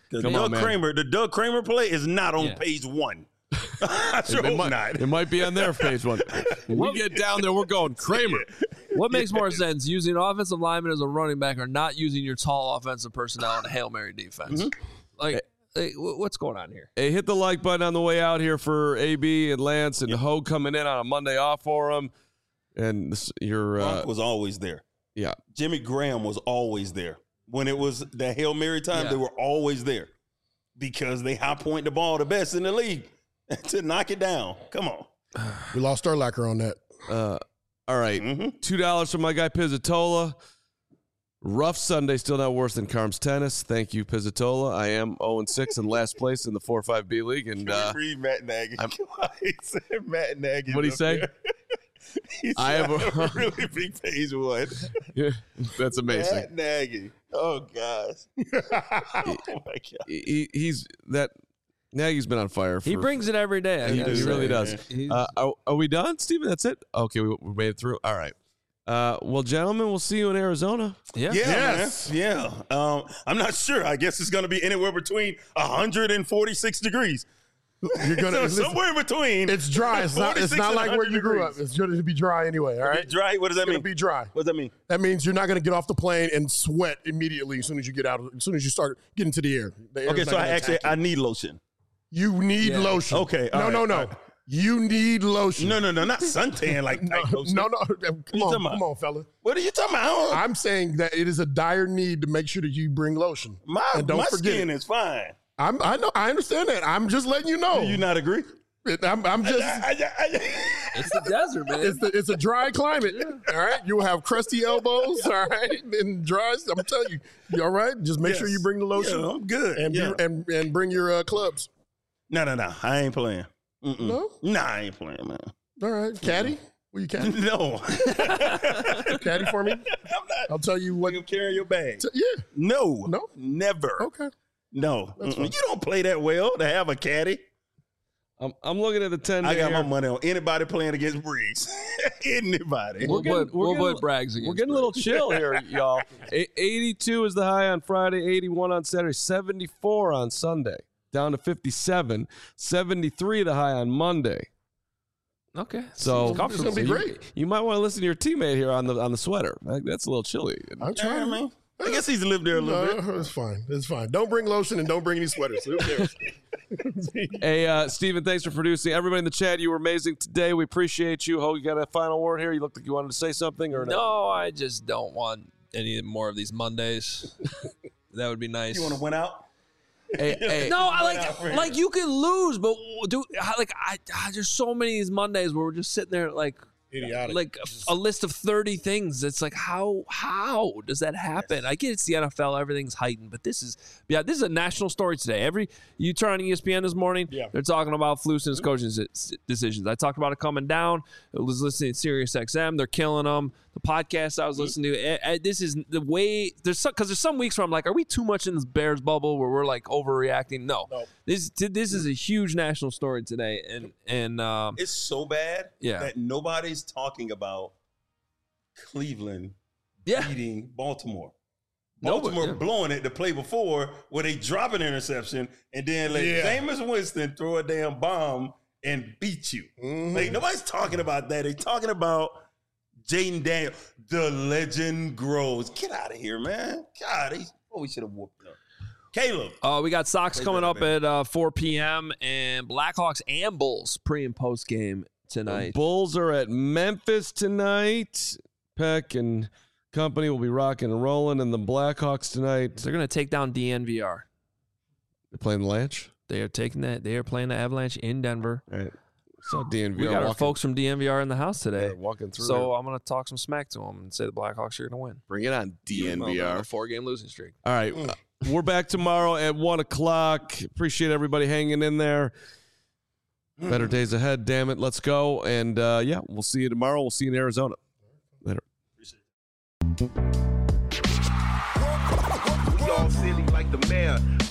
The Doug Kramer play is not on page 1. I sure hope not. It might be on their page 1. When we get down there, we're going Kramer. What makes more sense, using offensive lineman as a running back or not using your tall offensive personnel in a Hail Mary defense? Like, what's going on here? Hey, hit the like button on the way out here for AB and Lance and Hogue coming in on a Monday off for them. And Gronk was always there. Yeah. Jimmy Graham was always there. When it was the Hail Mary time, they were always there because they high point the ball the best in the league to knock it down. Come on. We lost our lacquer on that. All right. $2 from my guy Pizzatola. Rough Sunday, still not worse than Carm's tennis. Thank you, Pizzatola. I am 0-6 in last place in the 4-5B league. And read Matt Nagy. He said Matt Nagy. What'd he say? I have a really big page 1. Yeah, that's amazing. Matt Nagy. Oh, gosh. Oh, my God. He's that. Nagy's been on fire. He brings it every day. I He gotta really say. does. Are we done, Steven? That's it? Okay, we made it through. All right. Well, gentlemen, we'll see you in Arizona. Yeah. Yes. Man. Yeah. I'm not sure. I guess it's going to be anywhere between 146 degrees. You're gonna So somewhere in between. It's dry. It's not 46 like and where you grew 100 up. It's going to be dry anyway. All right. Dry? What does that It's mean? going to be dry. What does that mean? That means you're not going to get off the plane and sweat immediately as soon as you get out. As soon as you start getting to the air. The air's Okay, not so gonna attack I you. need lotion. You need lotion. Okay, all No. right. You need lotion. No, not suntan like tight lotion. No. talking Come about? on, fella. What are you talking about? I'm saying that it is a dire need to make sure that you bring lotion. My and don't forget skin it. is fine. I know. I understand that. I'm just letting you know. Do you not agree? I'm just. It's the desert, man. It's a dry climate. All right. You will have crusty elbows. All right. And dry. I'm telling you. You all right? Just make sure you bring the lotion. Yeah, I'm good. And and bring your clubs. No. I ain't playing. Mm-mm. No? Nah, I ain't playing, man. All right. Caddy? Will you caddy? No. Caddy for me? I'm not. I'll tell you what. You carry your bag. Yeah. No. No? Never. Okay. No. That's fine. You don't play that well to have a caddy. I'm looking at the 10-day I got my here. money on anybody playing against Briggs. Anybody. We'll put getting- Braggs against We're getting a little chill here, y'all. 82 is the high on Friday, 81 on Saturday, 74 on Sunday, down to 57, 73 the high on Monday. Okay. So It's gonna be great. You might want to listen to your teammate here on the sweater. That's a little chilly. I'm Yeah, trying, man. I guess he's lived there a little bit. It's fine. It's fine. Don't bring lotion and don't bring any sweaters. Who cares? Hey, Steven, thanks for producing. Everybody in the chat, you were amazing today. We appreciate you. Ho, you got a final word here? You looked like you wanted to say something or No, I just don't want any more of these Mondays. That would be nice. You want to win out? Hey, No, I like you can lose, but there's so many of these Mondays where we're just sitting there like Idiotic. like a list of 30 things. It's like how does that happen? I get it's the NFL, everything's heightened, but this is a national story today. You turn on ESPN this morning, they're talking about Flus and his coaching decisions. I talked about it coming down. I was listening to Sirius XM. They're killing them. The podcast I was listening to, this is the way there's some weeks where I'm like, are we too much in this Bears bubble where we're like overreacting? No. This is a huge national story today, and It's so bad Yeah. that nobody's talking about Cleveland beating Baltimore. Nobody, Baltimore yeah. blowing it the play before where they drop an interception and then let Jameis Winston throw a damn bomb and beat you. Like nobody's talking about that. They're talking about Jaden Daniels. The legend grows. Get out of here, man. God, we should have whooped them. Caleb. We got Sox coming up at 4 p.m. and Blackhawks and Bulls pre and post game tonight. The Bulls are at Memphis tonight. Peck and company will be rocking and rolling, and the Blackhawks tonight. They're going to take down DNVR. They're playing the Lanch. They are playing the Avalanche in Denver. All right. So DNVR. We got our folks from DNVR in the house today. They're walking through. So I'm going to talk some smack to them and say the Blackhawks are going to win. Bring it on, DNVR. A 4-game losing streak. All right. We're back tomorrow at 1 o'clock. Appreciate everybody hanging in there. Better days ahead. Damn it. Let's go. And we'll see you tomorrow. We'll see you in Arizona. Later. We all silly like the mayor.